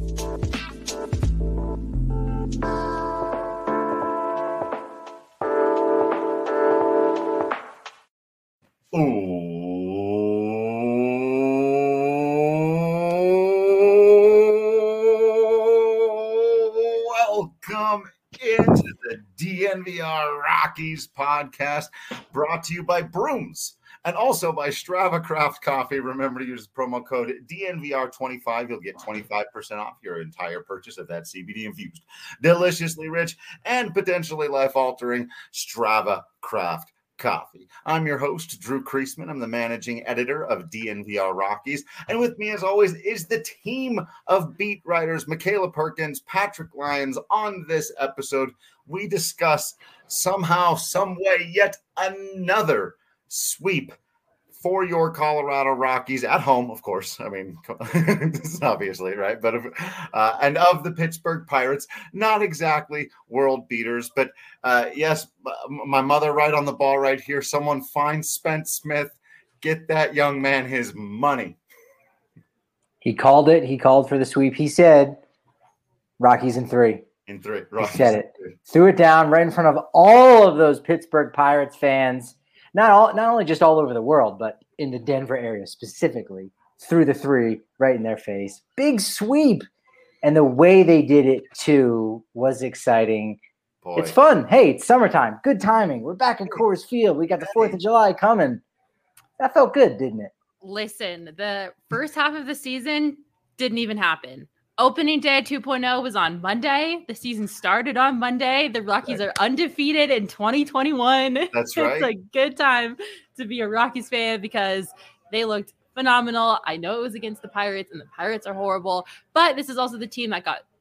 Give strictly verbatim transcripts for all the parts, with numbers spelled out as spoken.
Welcome into the D N V R Rockies podcast, brought to you by Brooms and also by Strava Craft Coffee. Remember to use the promo code D N V R twenty-five. You'll get twenty-five percent off your entire purchase of that C B D infused, deliciously rich, and potentially life-altering Strava Craft Coffee. I'm your host, Drew Kreisman. I'm the managing editor of D N V R Rockies. And with me, as always, is the team of beat writers, Michaela Perkins, Patrick Lyons. On this episode, we discuss somehow, some way, yet another sweep for your Colorado Rockies at home, of course. I mean, this is obviously, right? But uh, and of the Pittsburgh Pirates, not exactly world beaters, but uh, yes, my mother right on the ball right here. Someone find Spence Smith, get that young man his money. He called it. He called for the sweep. He said, Rockies in three. In three. Rockies he said it. Threw it down right in front of all of those Pittsburgh Pirates fans. Not all, not only just all over the world, but in the Denver area specifically, threw the three right in their face. Big sweep. And the way they did it, too, was exciting. Boy. It's fun. Hey, it's summertime. Good timing. We're back at Coors Field. We got the fourth of July coming. That felt good, didn't it? Listen, the first half of the season didn't even happen. Opening day two point oh was on Monday. The season started on Monday. The Rockies are undefeated in twenty twenty-one. That's right. It's a good time to be a Rockies fan because they looked phenomenal. I know it was against the Pirates, and the Pirates are horrible, but this is also the team that got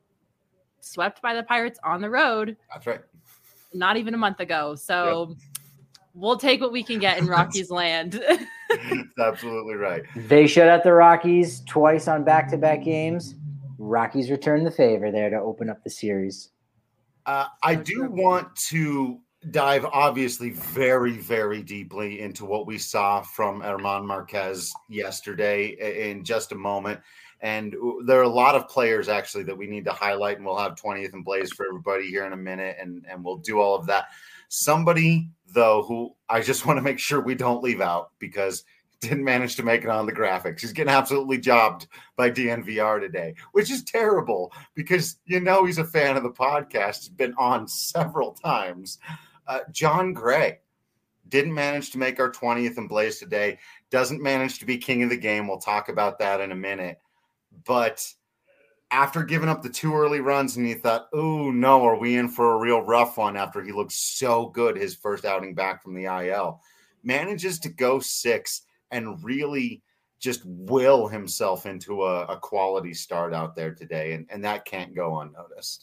swept by the Pirates on the road. That's right. Not even a month ago. So yep. We'll take what we can get in Rockies land. That's absolutely right. They shut out the Rockies twice on back-to-back games. Rockies return the favor there to open up the series. Uh, I do want to dive, obviously, very, very deeply into what we saw from German Marquez yesterday in just a moment. And there are a lot of players, actually, that we need to highlight, and we'll have twentieth and Blaze for everybody here in a minute, and, and we'll do all of that. Somebody, though, who I just want to make sure we don't leave out because – didn't manage to make it on the graphics. He's getting absolutely jobbed by D N V R today, which is terrible because you know he's a fan of the podcast. He's been on several times. Uh, Jon Gray didn't manage to make our twentieth and Blaze today. Doesn't manage to be king of the game. We'll talk about that in a minute. But after giving up the two early runs and you thought, oh, no, are we in for a real rough one after he looked so good his first outing back from the I L, manages to go six and really just will himself into a, a quality start out there today. And, and that can't go unnoticed.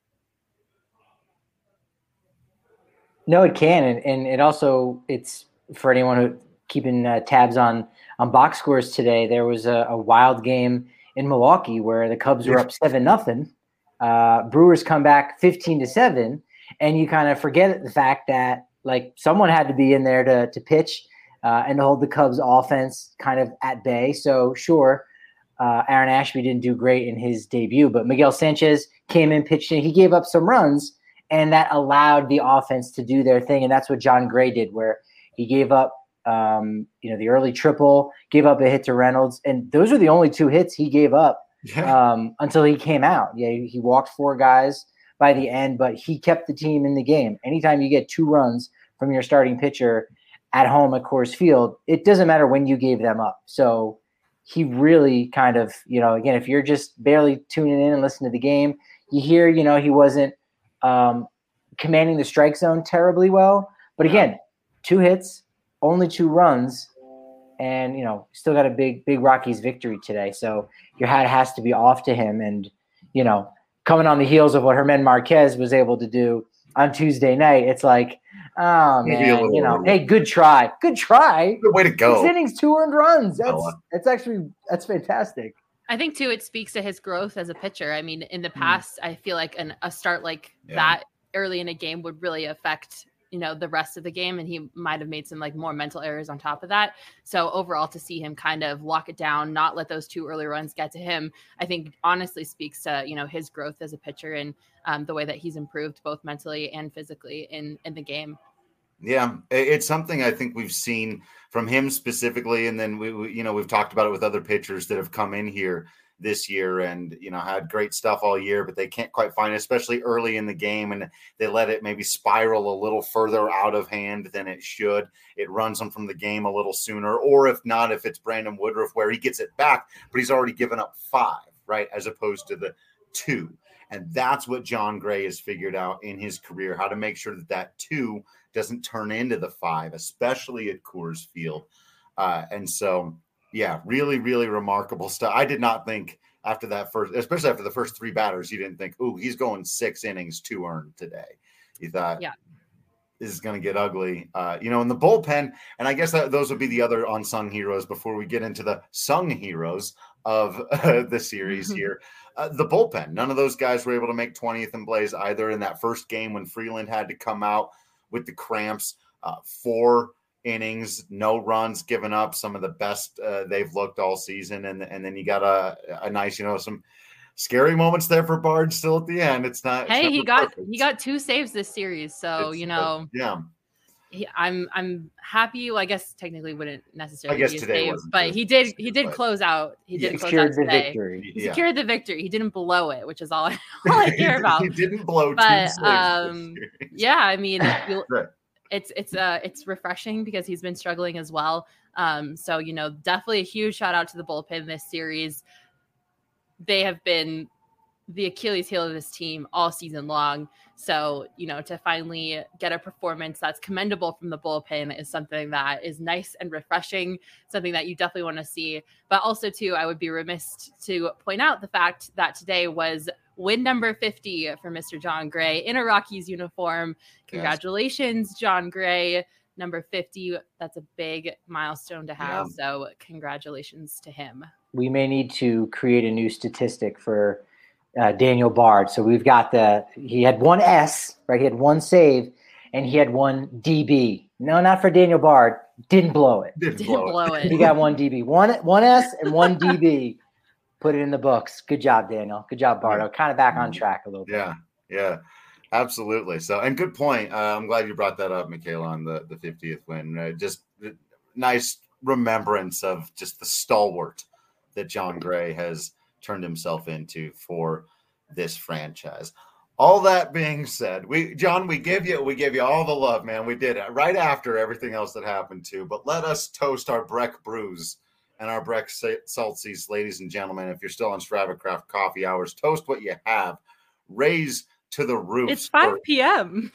No, it can. And, and it also, it's for anyone who keeping uh, tabs on, on box scores today, there was a, a wild game in Milwaukee where the Cubs were up seven, nothing. Uh, Brewers come back fifteen to seven. And you kind of forget the fact that like someone had to be in there to, to pitch, Uh, and to hold the Cubs offense kind of at bay. So sure, uh, Aaron Ashby didn't do great in his debut, but Miguel Sanchez came in, pitched in. He gave up some runs, and that allowed the offense to do their thing. And that's what Jon Gray did, where he gave up, um, you know, the early triple, gave up a hit to Reynolds, and those are the only two hits he gave up yeah. um, until he came out. Yeah, he walked four guys by the end, but he kept the team in the game. Anytime you get two runs from your starting pitcher at home at Coors Field, it doesn't matter when you gave them up. So he really kind of, you know, again, if you're just barely tuning in and listening to the game, you hear, you know, he wasn't um, commanding the strike zone terribly well. But again, two hits, only two runs, and, you know, still got a big, big Rockies victory today. So your hat has to be off to him. And, you know, coming on the heels of what German Marquez was able to do on Tuesday night, it's like, oh, man, you know, hey, good try. Good try. Good way to go. Six innings, two earned runs. That's that's actually that's fantastic. I think, too, it speaks to his growth as a pitcher. I mean, in the past, mm. I feel like an, a start like yeah. that early in a game would really affect you know, the rest of the game, and he might have made some like more mental errors on top of that. So overall, to see him kind of lock it down, not let those two early runs get to him, I think honestly speaks to, you know, his growth as a pitcher and um, the way that he's improved both mentally and physically in, in the game. Yeah, it's something I think we've seen from him specifically. And then we, we you know, we've talked about it with other pitchers that have come in here this year and, you know, had great stuff all year, but they can't quite find it, especially early in the game. And they let it maybe spiral a little further out of hand than it should. It runs them from the game a little sooner. Or if not, if it's Brandon Woodruff where he gets it back, but he's already given up five, right? As opposed to the two. And that's what Jon Gray has figured out in his career, how to make sure that that two doesn't turn into the five, especially at Coors Field. Uh, and so, yeah, really, really remarkable stuff. I did not think after that first, especially after the first three batters, you didn't think, ooh, he's going six innings, two earned today. You thought, yeah, this is going to get ugly. Uh, you know, in the bullpen, and I guess that those would be the other unsung heroes before we get into the sung heroes of uh, the series here. Uh, the bullpen, none of those guys were able to make twentieth and Blaze either in that first game when Freeland had to come out with the cramps. Uh, four innings, no runs given up, some of the best uh, they've looked all season. And, and then you got a, a nice, you know, some scary moments there for Bard still at the end. It's not. Hey, it's he got perfect. he got two saves this series, so it's, you know. Uh, yeah. He, I'm I'm happy. Well, I guess technically wouldn't necessarily I guess be a today save, but he did he did close out. He did he close secured out the today. victory. He yeah. secured the victory. He didn't blow it, which is all I, all I care about. He didn't blow but, two um, yeah, I mean, right. it's it's uh it's refreshing because he's been struggling as well. Um, so you know, definitely a huge shout out to the bullpen this series. They have been the Achilles heel of this team all season long. So, you know, to finally get a performance that's commendable from the bullpen is something that is nice and refreshing, something that you definitely want to see. But also, too, I would be remiss to point out the fact that today was win number fifty for Mister Jon Gray in a Rockies uniform. Congratulations, yes. Jon Gray, number fifty. That's a big milestone to have. Yeah. So congratulations to him. We may need to create a new statistic for Uh, Daniel Bard. So we've got the, he had one S, right? He had one save and he had one D B. No, not for Daniel Bard. Didn't blow it. Didn't, Didn't blow, blow it. it. He got one D B, one, one S and one D B. Put it in the books. Good job, Daniel. Good job, Bardo. Kind of back on track a little bit. Yeah. Yeah, absolutely. So, and good point. Uh, I'm glad you brought that up, Michaela, on the, the fiftieth win. Uh, just nice remembrance of just the stalwart that Jon Gray has turned himself into for this franchise. All that being said, we John, we give you we give you all the love, man. We did it right after everything else that happened too. But let us toast our Breck brews and our Breck Saltsies, ladies and gentlemen. If you're still on Strava Craft coffee hours, toast what you have. Raise to the roof. It's five p.m.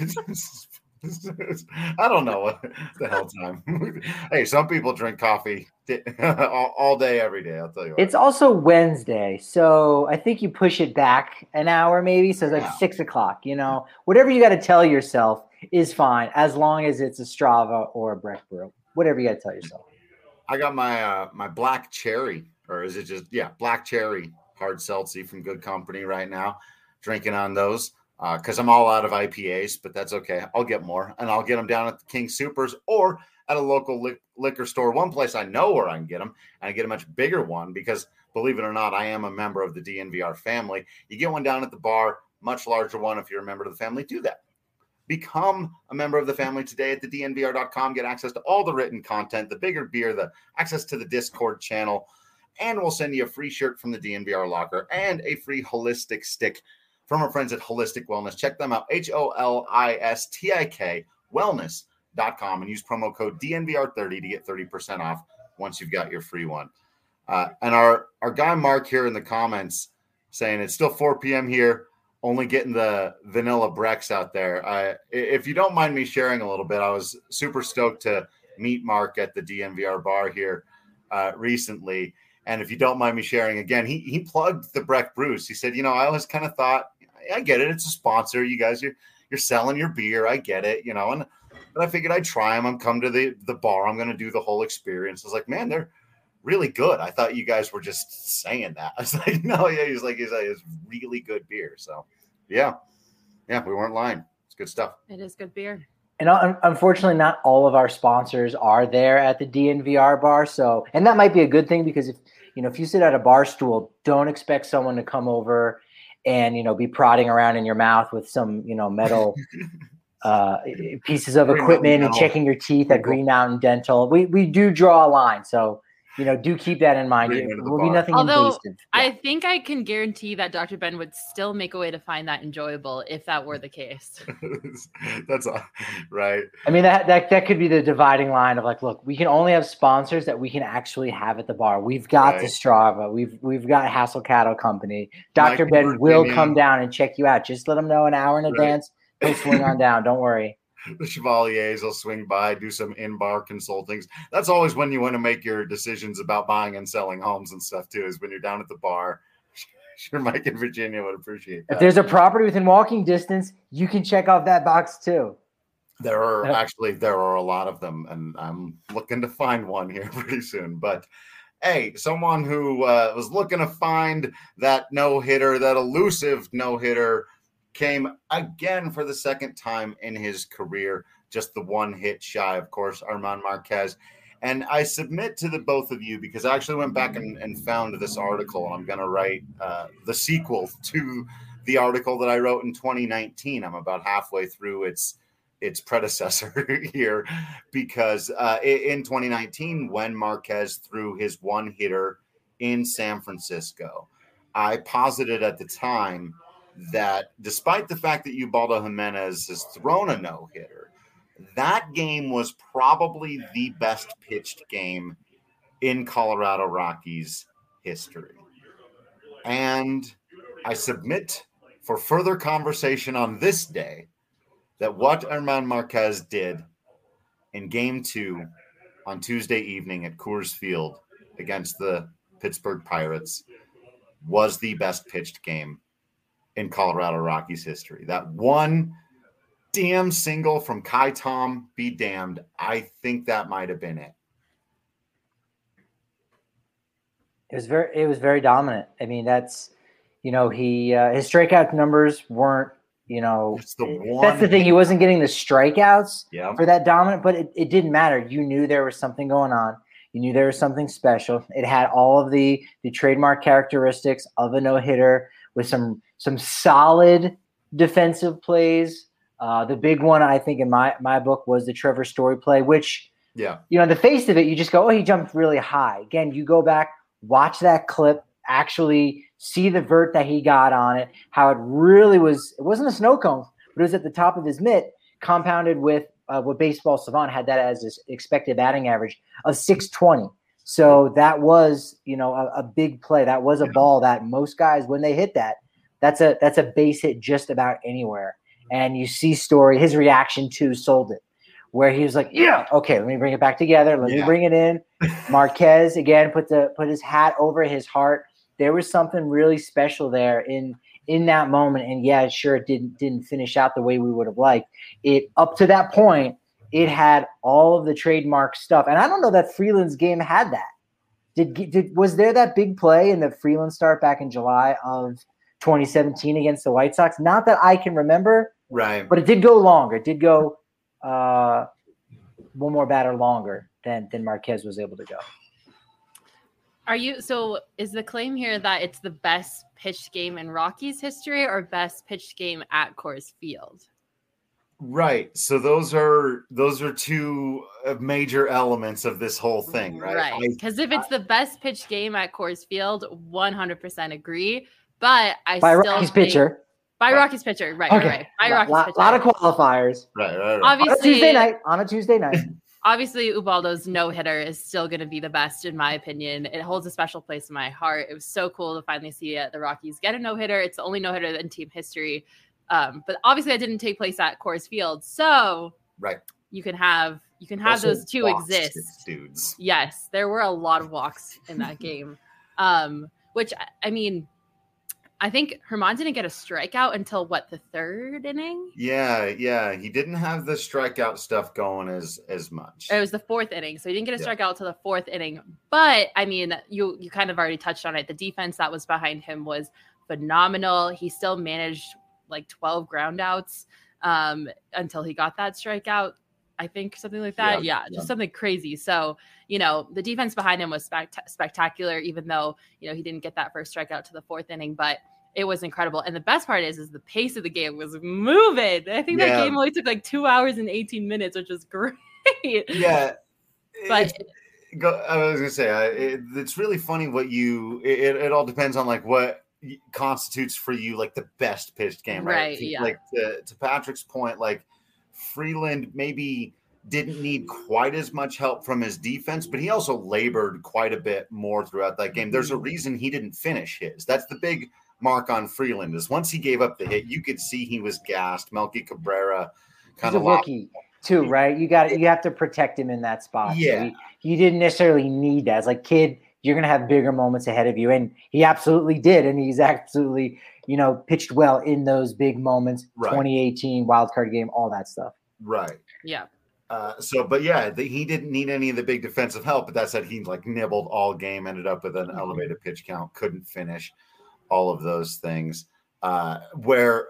I don't know what the hell time. Hey, some people drink coffee all, all day, every day. I'll tell you what. It's also Wednesday, so I think you push it back an hour, maybe. So it's like yeah. six o'clock. You know, whatever you got to tell yourself is fine, as long as it's a Strava or a Breck brew. Whatever you got to tell yourself. I got my uh, my black cherry, or is it just yeah, black cherry hard seltzy from Good Company right now. Drinking on those. Because uh, I'm all out of I P As, but that's okay. I'll get more, and I'll get them down at the King Supers or at a local li- liquor store. One place I know where I can get them, and I get a much bigger one because, believe it or not, I am a member of the D N V R family. You get one down at the bar, much larger one. If you're a member of the family, do that. Become a member of the family today at the D N V R dot com. Get access to all the written content, the bigger beer, the access to the Discord channel, and we'll send you a free shirt from the D N V R locker and a free holistic stick from our friends at Holistic Wellness. Check them out, H O L I S T I K wellness dot com, and use promo code D N V R thirty to get thirty percent off once you've got your free one. Uh, and our, our guy Mark here in the comments saying it's still four p.m. here, only getting the vanilla Brecks out there. Uh, if you don't mind me sharing a little bit, I was super stoked to meet Mark at the D N V R bar here uh, recently. And if you don't mind me sharing again, he he plugged the Breck Brews. He said, you know, I always kind of thought, I get it. It's a sponsor. You guys, you're, you're selling your beer. I get it, you know. And but I figured I'd try them. I'm come to the, the bar. I'm going to do the whole experience. I was like, man, they're really good. I thought you guys were just saying that. I was like, no, yeah. He's like, he's like, it's really good beer. So, yeah. Yeah, we weren't lying. It's good stuff. It is good beer. And un- unfortunately, not all of our sponsors are there at the D N V R bar. So, and that might be a good thing because if you know if you sit at a bar stool, don't expect someone to come over and you know be prodding around in your mouth with some you know metal uh, pieces of Green equipment Mountain and checking your teeth at Green Mountain Dental. We we do draw a line, so you know do keep that in mind. Bring It it to the will be bar. nothing Although invasive. I Yeah. think I can guarantee that Doctor Ben would still make a way to find that enjoyable if that were the case. That's uh, right. I mean that, that that could be the dividing line of like, look, we can only have sponsors that we can actually have at the bar. We've got Right. the Strava, we've we've got Hassel Cattle Company. Doctor Mike, Ben will Virginia. come down and check you out. Just let him know an hour in Right. advance. He'll swing on down. Don't worry. The Chevaliers will swing by, do some in-bar consultings. That's always when you want to make your decisions about buying and selling homes and stuff too, is when you're down at the bar. Sure, Mike in Virginia would appreciate that. If there's a property within walking distance, you can check off that box too. There are actually there are a lot of them, and I'm looking to find one here pretty soon. But hey, someone who uh, was looking to find that no-hitter, that elusive no-hitter, came again for the second time in his career, just the one hit shy, of course, German Marquez. And I submit to the both of you, because I actually went back and, and found this article, and I'm going to write uh, the sequel to the article that I wrote in twenty nineteen. I'm about halfway through its its predecessor here, because uh, in twenty nineteen, when Marquez threw his one hitter in San Francisco, I posited at the time that despite the fact that Ubaldo Jimenez has thrown a no-hitter, that game was probably the best pitched game in Colorado Rockies history. And I submit for further conversation on this day that what German Marquez did in game two on Tuesday evening at Coors Field against the Pittsburgh Pirates was the best pitched game in Colorado Rockies history. That one damn single from Kai Tom be damned. I think that might have been it. It was very it was very dominant. I mean, that's you know, he uh, his strikeout numbers weren't, you know, It's the one that's the thing. He wasn't getting the strikeouts Yeah. for that dominant, but it, it didn't matter. You knew there was something going on. You knew there was something special. It had all of the the trademark characteristics of a no-hitter with some some solid defensive plays. Uh, the big one, I think, in my my book was the Trevor Story play, which, Yeah. you know, on the face of it, you just go, oh, he jumped really high. Again, you go back, watch that clip, actually see the vert that he got on it, how it really was. It wasn't a snow cone, but it was at the top of his mitt, compounded with uh, what Baseball Savant had that as his expected batting average of six twenty. So that was, you know, a, a big play. That was a ball that most guys, when they hit that, that's a that's a base hit just about anywhere. And you see Story, his reaction to sold it, where he was like, yeah, okay, let me bring it back together. Let Yeah. me bring it in. Marquez, again, put the put his hat over his heart. There was something really special there in in that moment. And yeah, sure, it didn't didn't finish out the way we would have liked. It up to that point, it had all of the trademark stuff. And I don't know that Freeland's game had that. Did did was there that big play in the Freeland start back in July of twenty seventeen against the White Sox? Not that I can remember. Right. But it did go longer. It did go uh, one more batter longer than than Marquez was able to go. Are you so is the claim here that it's the best pitched game in Rockies history or best pitched game at Coors Field? Right. So those are those are two major elements of this whole thing, right? Right. I- Because if it's the best pitched game at Coors Field, one hundred percent agree. But I By still Rockies think, pitcher. By Right. Rockies pitcher. Right, Okay. right, right. By A Rockies lot, pitcher. lot of qualifiers. right, right, right. On a Obviously, Tuesday night. On a Tuesday night. obviously Ubaldo's no-hitter is still going to be the best in my opinion. It holds a special place in my heart. It was so cool to finally see uh, the Rockies get a no-hitter. It's the only no-hitter in team history. Um, but obviously that didn't take place at Coors Field. So Right. you can have you can have Also those two walks, exist. dudes. Yes, there were a lot of walks in that game. Um, which I mean, I think Germán didn't get a strikeout until what, the third inning? Yeah, yeah. He didn't have the strikeout stuff going as as much. It was the fourth inning, so he didn't get a Yeah. strikeout till the fourth inning. But I mean, you you kind of already touched on it. The defense that was behind him was phenomenal. He still managed like twelve groundouts. um, until he got that strikeout. I think something like that. Yeah, yeah, just yeah. something crazy. So, you know, the defense behind him was spect- spectacular, even though, you know, he didn't get that first strikeout to the fourth inning, but it was incredible. And the best part is, is the pace of the game was moving. I think yeah. that game only took like two hours and eighteen minutes, which is great. Yeah. But go, I was going to say, uh, it, it's really funny what you, it, it all depends on like what constitutes for you, like the best pitched game, right? Right. Yeah. Like to, to Patrick's point, like, Freeland maybe didn't need quite as much help from his defense, but he also labored quite a bit more throughout that game. There's a reason he didn't finish his. That's the big mark on Freeland, is once he gave up the hit, you could see he was gassed. Melky Cabrera kind He's of a rookie too, right? You got you have to protect him in that spot. Yeah, so he, he didn't necessarily need that. It's like, kid, you're gonna have bigger moments ahead of you, and he absolutely did, and he's absolutely, you know, pitched well in those big moments. Right. twenty eighteen wild card game, all that stuff. Right. Yeah. Uh, so, but yeah, the, he didn't need any of the big defensive help. But that said, he like nibbled all game, ended up with an mm-hmm. elevated pitch count, couldn't finish, all of those things. Uh, where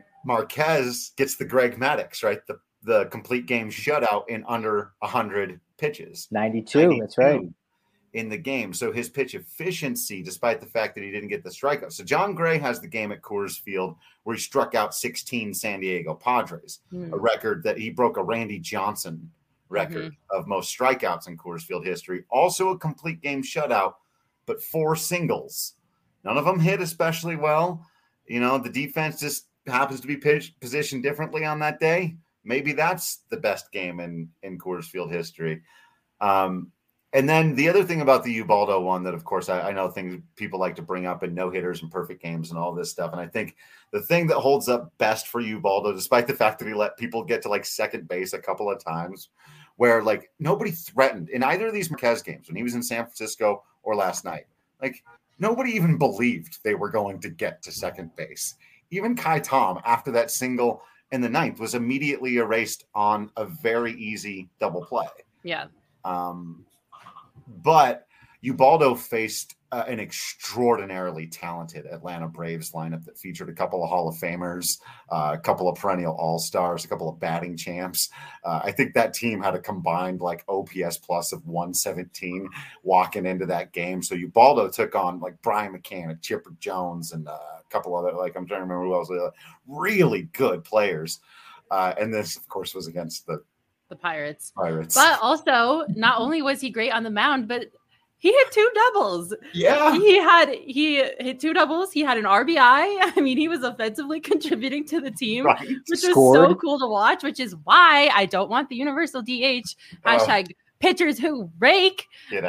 Marquez gets the Greg Maddux, right? The the complete game shutout in under one hundred pitches. ninety-two, ninety-two that's right. In the game. So his pitch efficiency, despite the fact that he didn't get the strikeout. So John Gray has the game at Coors Field where he struck out sixteen San Diego Padres, mm. a record that he broke a Randy Johnson record mm-hmm. of most strikeouts in Coors Field history. Also a complete game shutout, but four singles. None of them hit especially well. You know, the defense just happens to be pitched, positioned differently on that day. Maybe that's the best game in, in Coors Field history. Um, And then the other thing about the Ubaldo one that, of course, I, I know things people like to bring up in no-hitters and perfect games and all this stuff. And I think the thing that holds up best for Ubaldo, despite the fact that he let people get to like second base a couple of times, where like nobody threatened in either of these Marquez games when he was in San Francisco or last night, like nobody even believed they were going to get to second base. Even Kai Tom, after that single in the ninth, was immediately erased on a very easy double play. Yeah. Um, But Ubaldo faced uh, an extraordinarily talented Atlanta Braves lineup that featured a couple of Hall of Famers, uh, a couple of perennial All-Stars, a couple of batting champs. Uh, I think that team had a combined like O P S plus of one seventeen walking into that game. So Ubaldo took on like Brian McCann, Chipper Jones, and uh, a couple other, like I'm trying to remember who else, uh, really good players. Uh, and this, of course, was against the The Pirates. Pirates. But also, not only was he great on the mound, but he hit two doubles. Yeah. He had he hit two doubles. He had an R B I. I mean, he was offensively contributing to the team, right. which Scored. was so cool to watch, which is why I don't want the universal D H. Hashtag oh. pitchers who rake.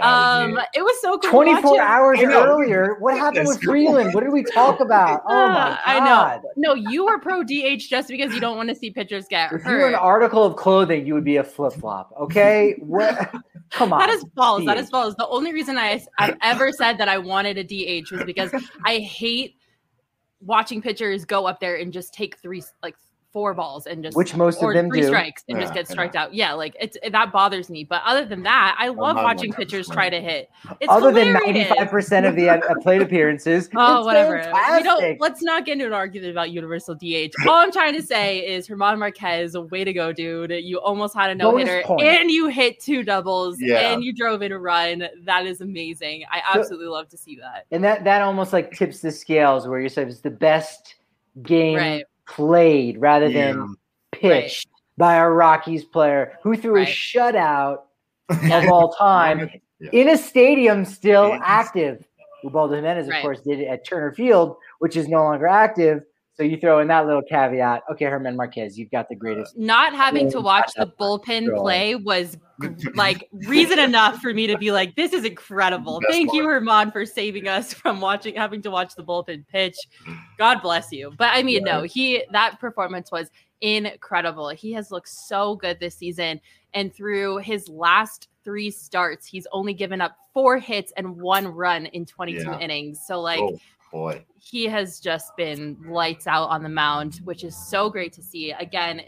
Um, it was so cool. twenty-four hours earlier. What happened with Freeland? What did we talk about? Oh my God. I know. No, you were pro D H just because you don't want to see pitchers get if hurt. If you were an article of clothing, you would be a flip flop. Okay. What? Come on. That is false. D H. That is false. The only reason I, I've ever said that I wanted a D H was because I hate watching pitchers go up there and just take three, like, four balls and just which most or of them three do. strikes and yeah, just get striked yeah. out. Yeah, like it's that bothers me. But other than that, I love watching pitchers try to hit. It's other hilarious. than ninety-five percent of the uh, plate appearances. Oh, whatever. Fantastic. We don't. Let's not get into an argument about universal D H. All I'm trying to say is German Marquez, way to go, dude. You almost had a no hitter and you hit two doubles yeah. and you drove in a run. That is amazing. I absolutely so, love to see that. And that that almost like tips the scales where you said it's the best game right. played rather yeah. than pitched right. by a Rockies player who threw right. a shutout of all time yeah. in a stadium still yeah. active. Ubaldo Jimenez, of right. course, did it at Turner Field, which is no longer active. So you throw in that little caveat. Okay, German Marquez, you've got the greatest. Not having to watch the bullpen play was like reason enough for me to be like, this is incredible. Best Thank part. you, German, for saving us from watching, having to watch the bullpen pitch. God bless you. But I mean, yeah. no, he that performance was incredible. He has looked so good this season. And through his last three starts, he's only given up four hits and one run in twenty-two yeah. innings. So like, oh, boy, he has just been lights out on the mound, which is so great to see. Again,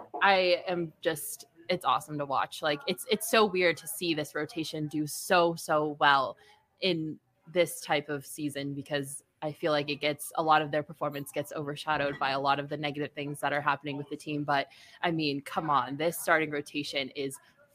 I am just, it's awesome to watch. Like it's, it's so weird to see this rotation do so, so well in this type of season because I feel like it gets a lot of their performance gets overshadowed by a lot of the negative things that are happening with the team. But I mean, come on, this starting rotation is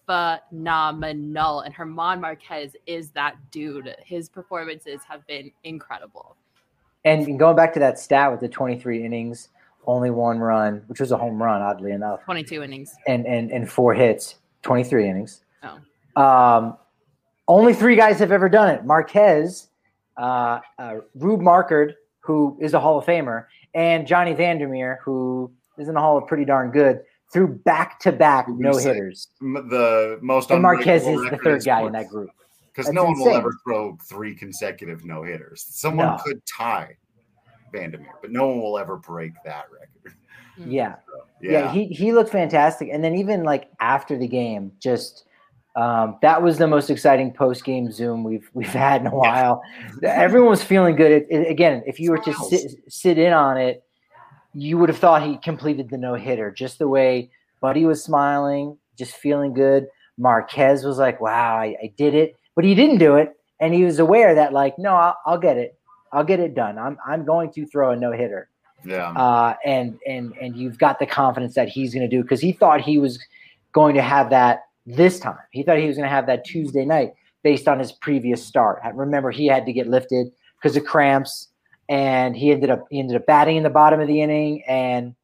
phenomenal. And German Marquez is that dude. His performances have been incredible. And going back to that stat with the twenty-three innings, only one run, which was a home run, oddly enough. twenty-two innings. And and and four hits, twenty-three innings. Oh. Um, only three guys have ever done it. Marquez, uh, uh, Rube Markard, who is a Hall of Famer, and Johnny Vandermeer, who is in the Hall of pretty darn good, threw back-to-back no-hitters. The most and Marquez is the third guy in that group. Because no one insane. will ever throw three consecutive no-hitters. Someone no. could tie Vandermeer, but no one will ever break that record. Yeah. So, yeah. Yeah, he, he looked fantastic. And then even like after the game, just um, that was the most exciting post-game Zoom we've we've had in a while. Yeah. Everyone was feeling good. It, it, again, if you were to sit, sit in on it, you would have thought he completed the no-hitter. Just the way Buddy was smiling, just feeling good. Marquez was like, wow, I, I did it. But he didn't do it. And he was aware that, like, no, I'll, I'll get it. I'll get it done. I'm I'm going to throw a no-hitter. Yeah. Uh, and and and you've got the confidence that he's going to do because he thought he was going to have that this time. He thought he was going to have that Tuesday night based on his previous start. Remember, he had to get lifted because of cramps, and he ended up he ended up batting in the bottom of the inning, and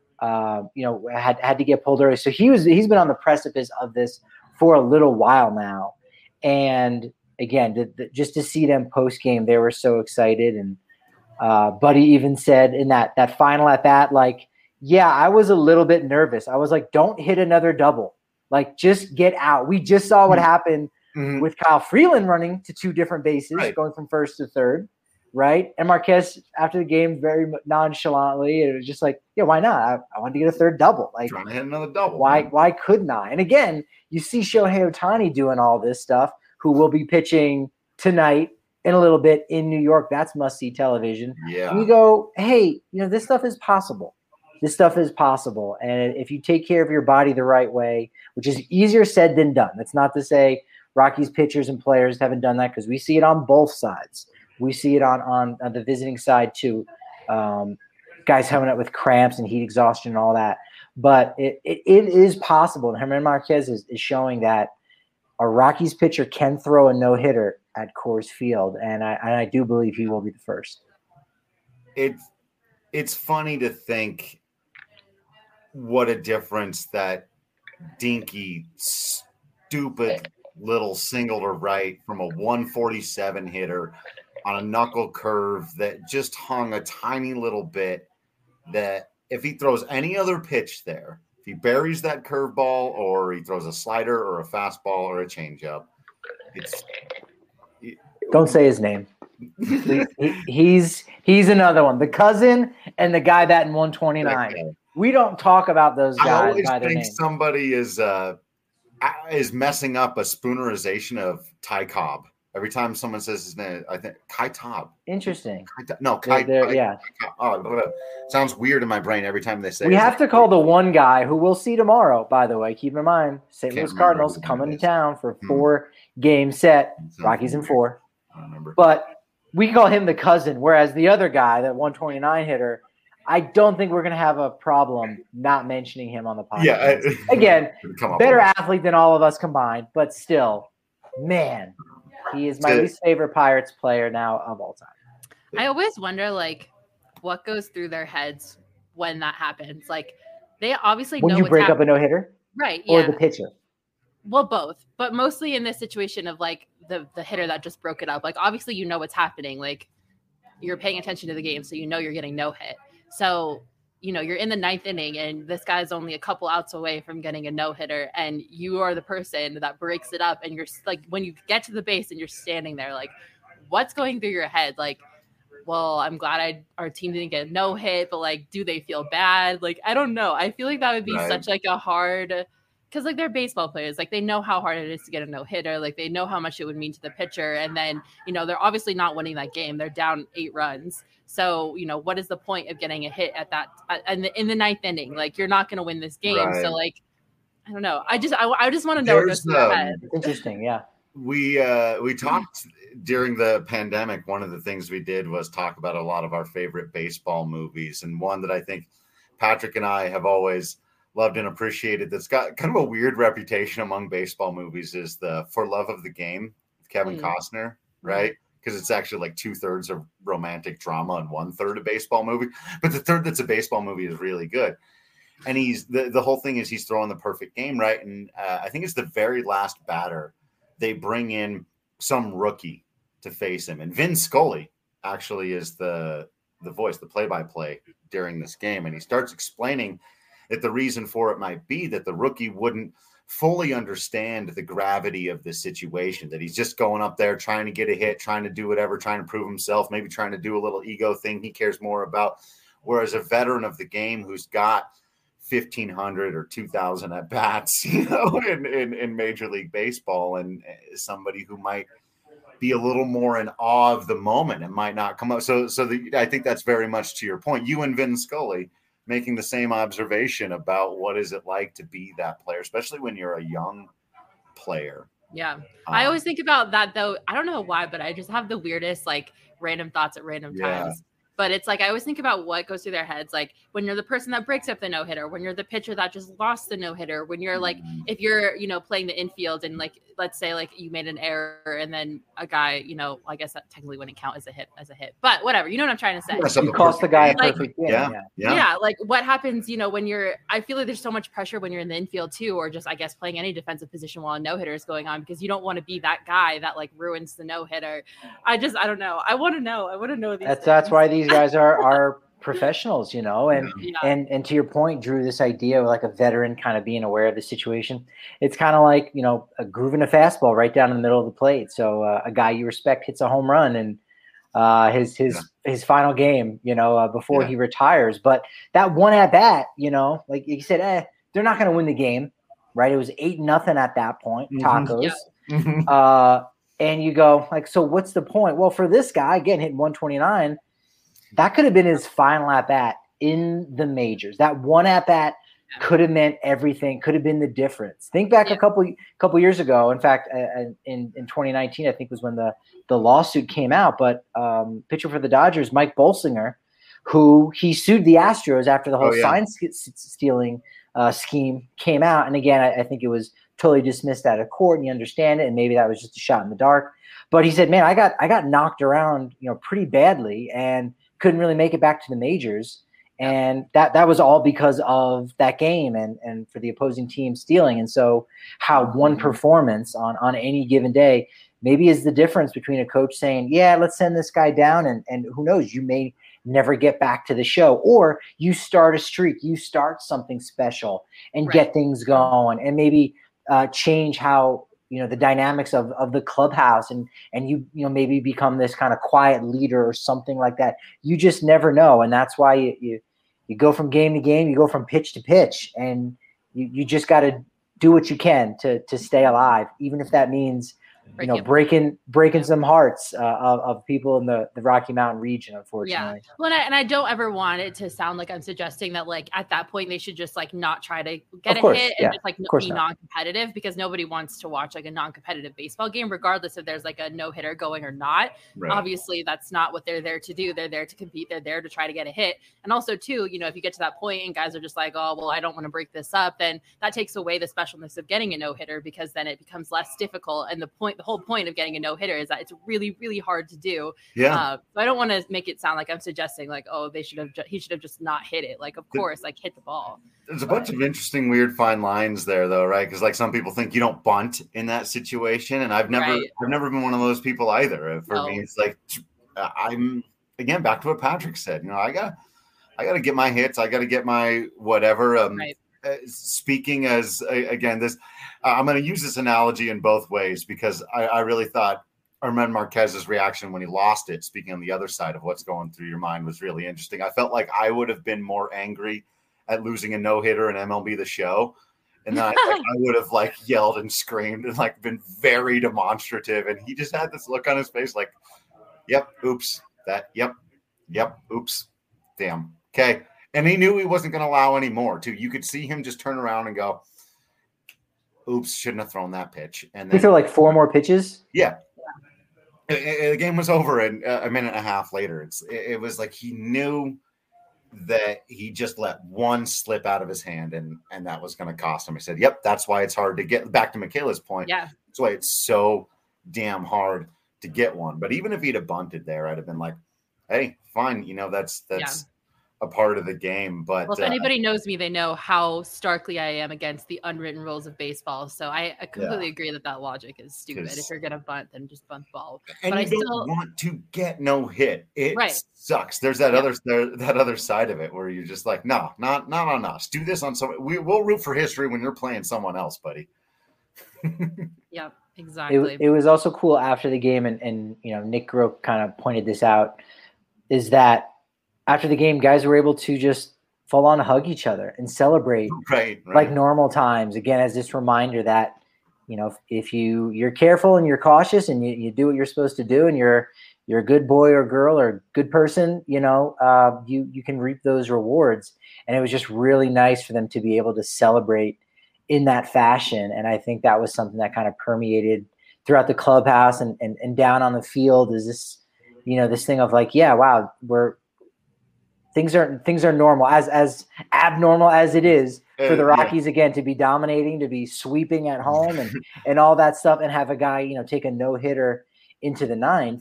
uh, you know had had to get pulled early. So he was he's been on the precipice of this for a little while now, and again, the, the, just to see them post game, they were so excited. And uh, Buddy even said in that that final at bat, like, yeah, I was a little bit nervous. I was like, don't hit another double. Like, just get out. We just saw what happened mm-hmm. with Kyle Freeland running to two different bases, right. going from first to third, right? And Marquez, after the game, very nonchalantly, it was just like, yeah, why not? I, I wanted to get a third double. Like, trying to hit another double. Why, man. why couldn't I? And again, you see Shohei Ohtani doing all this stuff, who will be pitching tonight in a little bit in New York. That's must-see television. Yeah. And you go, hey, you know, this stuff is possible. This stuff is possible. And if you take care of your body the right way, which is easier said than done. That's not to say Rockies pitchers and players haven't done that, because we see it on both sides. We see it on, on, on the visiting side too. Um, guys coming up with cramps and heat exhaustion and all that. But it, it, it is possible. And German Marquez is, is showing that a Rockies pitcher can throw a no-hitter at Coors Field, and I, and I do believe he will be the first. It's it's funny to think what a difference that dinky, stupid little single to right from a one forty-seven hitter on a knuckle curve that just hung a tiny little bit, that if he throws any other pitch there, if he buries that curveball or he throws a slider or a fastball or a changeup, it's it, don't say his name. he, he's he's another one. The cousin and the guy that in one twenty-nine. Okay. We don't talk about those guys. I always by their think name. somebody is uh, is messing up a spoonerization of Ty Cobb. Every time someone says his name, I think Kai Cobb. Interesting. Kai, no, Kai. They're, they're, Kai yeah. Kai, oh, sounds weird in my brain every time they say. We it. have to call the one guy who we'll see tomorrow. By the way, keep in mind, Saint Louis Cardinals coming to town for a Hmm. four-game set. Rockies in four. I don't remember. But we call him the cousin, whereas the other guy, that one twenty-nine hitter, I don't think we're going to have a problem not mentioning him on the podcast. Yeah. I, Again, come up better with athlete than all of us combined, but still, man, he is my Good. least favorite Pirates player now of all time. I always wonder, like, what goes through their heads when that happens. Like, they obviously When know you what's break hap- up a no-hitter right? or Yeah. the pitcher. Well, both, but mostly in this situation of like the the hitter that just broke it up. Like, obviously, you know what's happening. Like, you're paying attention to the game, so you know you're getting no hit. So, you know, you're in the ninth inning, and this guy's only a couple outs away from getting a no hitter, and you are the person that breaks it up. And you're like, when you get to the base and you're standing there, like, what's going through your head? Like, well, I'm glad I our team didn't get a no hit, but like, do they feel bad? Like, I don't know. I feel like that would be Right. such like a hard. Because, like, they're baseball players. Like, they know how hard it is to get a no-hitter. Like, they know how much it would mean to the pitcher. And then, you know, they're obviously not winning that game. They're down eight runs. So, you know, what is the point of getting a hit at that – in the, in the ninth inning? Like, you're not going to win this game. Right. So, like, I don't know. I just I, I just want to know what goes There's, through their um, head. It's interesting, yeah. we uh, we talked during the pandemic. One of the things we did was talk about a lot of our favorite baseball movies, and one that I think Patrick and I have always loved and appreciated that's got kind of a weird reputation among baseball movies is the For Love of the Game with Kevin mm. Costner, right? Because it's actually like two thirds of romantic drama and one third a baseball movie. But the third that's a baseball movie is really good. And he's the, the whole thing is he's throwing the perfect game, right? And uh, I think it's the very last batter. They bring in some rookie to face him. And Vin Scully actually is the, the voice, the play-by-play during this game. And he starts explaining that the reason for it might be that the rookie wouldn't fully understand the gravity of the situation, that he's just going up there trying to get a hit, trying to do whatever, trying to prove himself, maybe trying to do a little ego thing he cares more about. Whereas a veteran of the game who's got fifteen hundred or two thousand at bats, you know, in, in, in Major League Baseball, and somebody who might be a little more in awe of the moment and might not come up. So, so the, I think that's very much to your point. You and Vin Scully making the same observation about what is it like to be that player, especially when you're a young player. Yeah. Um, I always think about that though. I don't know why, but I just have the weirdest, like random thoughts at random yeah. times. But it's like, I always think about what goes through their heads. Like when you're the person that breaks up the no hitter, when you're the pitcher that just lost the no hitter, when you're like, mm-hmm. if you're, you know, playing the infield and like, let's say like you made an error and then a guy, you know, I guess that technically wouldn't count as a hit, as a hit, but whatever, you know what I'm trying to say? You cost the guy a like, perfect game. Yeah, yeah. Yeah. Yeah. Like what happens, you know, when you're, I feel like there's so much pressure when you're in the infield too, or just, I guess, playing any defensive position while a no hitter is going on, because you don't want to be that guy that like ruins the no hitter. I just, I don't know. I want to know. I want to know these That's, things. that's why these guys are, are professionals, you know, and, yeah. and, and to your point, Drew, this idea of like a veteran kind of being aware of the situation, it's kind of like, you know, a grooving a fastball right down in the middle of the plate. So uh, a guy you respect hits a home run and uh, his, his, yeah. his final game, you know, uh, before yeah. he retires. But that one at bat, you know, like you said, eh, they're not going to win the game, right? It was eight, nothing at that point, Tacos. Yeah. uh, and you go like, so what's the point? Well, for this guy, again, hitting one twenty-nine, that could have been his final at-bat in the majors. That one at-bat could have meant everything, could have been the difference. Think back yeah. a couple couple years ago. In fact, uh, in, in twenty nineteen, I think was when the, the lawsuit came out. But um, pitcher for the Dodgers, Mike Bolsinger, who he sued the Astros after the whole oh, yeah. sign stealing uh, scheme came out. And again, I, I think it was totally dismissed out of court, and you understand it. And maybe that was just a shot in the dark. But he said, man, I got I got knocked around, you know, pretty badly, and couldn't really make it back to the majors. And that, that was all because of that game and, and for the opposing team stealing. And so how one performance on, on any given day maybe is the difference between a coach saying, yeah, let's send this guy down. And, and who knows, you may never get back to the show, or you start a streak, you start something special and right. get things going and maybe uh, change how, you know, the dynamics of, of the clubhouse, and, and you, you know, maybe become this kind of quiet leader or something like that. You just never know. And that's why you, you, you go from game to game, you go from pitch to pitch, and you, you just got to do what you can to, to stay alive, even if that means, you know, breaking breaking some hearts uh, of, of people in the, the Rocky Mountain region, unfortunately. Yeah. Well, and I, and I don't ever want it to sound like I'm suggesting that, like, at that point they should just like not try to get of a course, hit yeah. and just like be not. non-competitive, because nobody wants to watch like a non-competitive baseball game, regardless if there's like a no-hitter going or not. Right. Obviously, that's not what they're there to do. They're there to compete. They're there to try to get a hit. And also, too, you know, if you get to that point and guys are just like, oh, well, I don't want to break this up, then that takes away the specialness of getting a no-hitter, because then it becomes less difficult. And the point, the whole point of getting a no-hitter is that it's really, really hard to do. Yeah. Uh, so I don't want to make it sound like I'm suggesting like, oh, they should have, ju- he should have just not hit it. Like, of course, like hit the ball. There's a bunch of interesting, weird fine lines there, though, right? Because like some people think you don't bunt in that situation, and I've never, Right. I've never been one of those people either. For No. me, it's like I'm again back to what Patrick said. You know, I got, I got to get my hits. I got to get my whatever. Um, Right. uh, speaking as uh, again, this uh, I'm going to use this analogy in both ways, because I, I really thought German Marquez's reaction when he lost it, speaking on the other side of what's going through your mind, was really interesting. I felt like I would have been more angry at losing a no-hitter in M L B The Show. And then I, like, I would have like yelled and screamed and like been very demonstrative. And he just had this look on his face like, yep, oops, that, yep, yep, oops, damn. Okay. And he knew he wasn't going to allow any more too. You could see him just turn around and go, oops, shouldn't have thrown that pitch. And He then threw like four more pitches. Yeah. It, it, the game was over in a minute and a half later. It's it, it was like he knew that he just let one slip out of his hand and and that was going to cost him. He said, yep, that's why it's hard to get back to Michaela's point. Yeah. That's why it's so damn hard to get one. But even if he'd have bunted there, I'd have been like, hey, fine. You know, that's, that's yeah. a part of the game. But well, if uh, anybody knows me, they know how starkly I am against the unwritten rules of baseball. So I, I completely yeah. agree that that logic is stupid. If you're going to bunt, then just bunt the ball. And but you I don't still want to get no hit. It right. sucks. There's that yeah. other there, that other side of it where you're just like, no, not not on us. Do this on someone. We will root for history when you're playing someone else, buddy. yeah, exactly. It, it was also cool after the game, and and you know Nick Groke kind of pointed this out, is that after the game, guys were able to just full on hug each other and celebrate right, right. like normal times. Again, as this reminder that, you know, if, if you you're careful and you're cautious and you, you do what you're supposed to do and you're you're a good boy or girl or good person, you know, uh, you you can reap those rewards. And it was just really nice for them to be able to celebrate in that fashion. And I think that was something that kind of permeated throughout the clubhouse and and, and down on the field. Is this, you know, this thing of like, yeah, wow, we're Things are things are normal, as as abnormal as it is for the Rockies, uh, yeah. again, to be dominating, to be sweeping at home and, and all that stuff, and have a guy, you know, take a no-hitter into the ninth.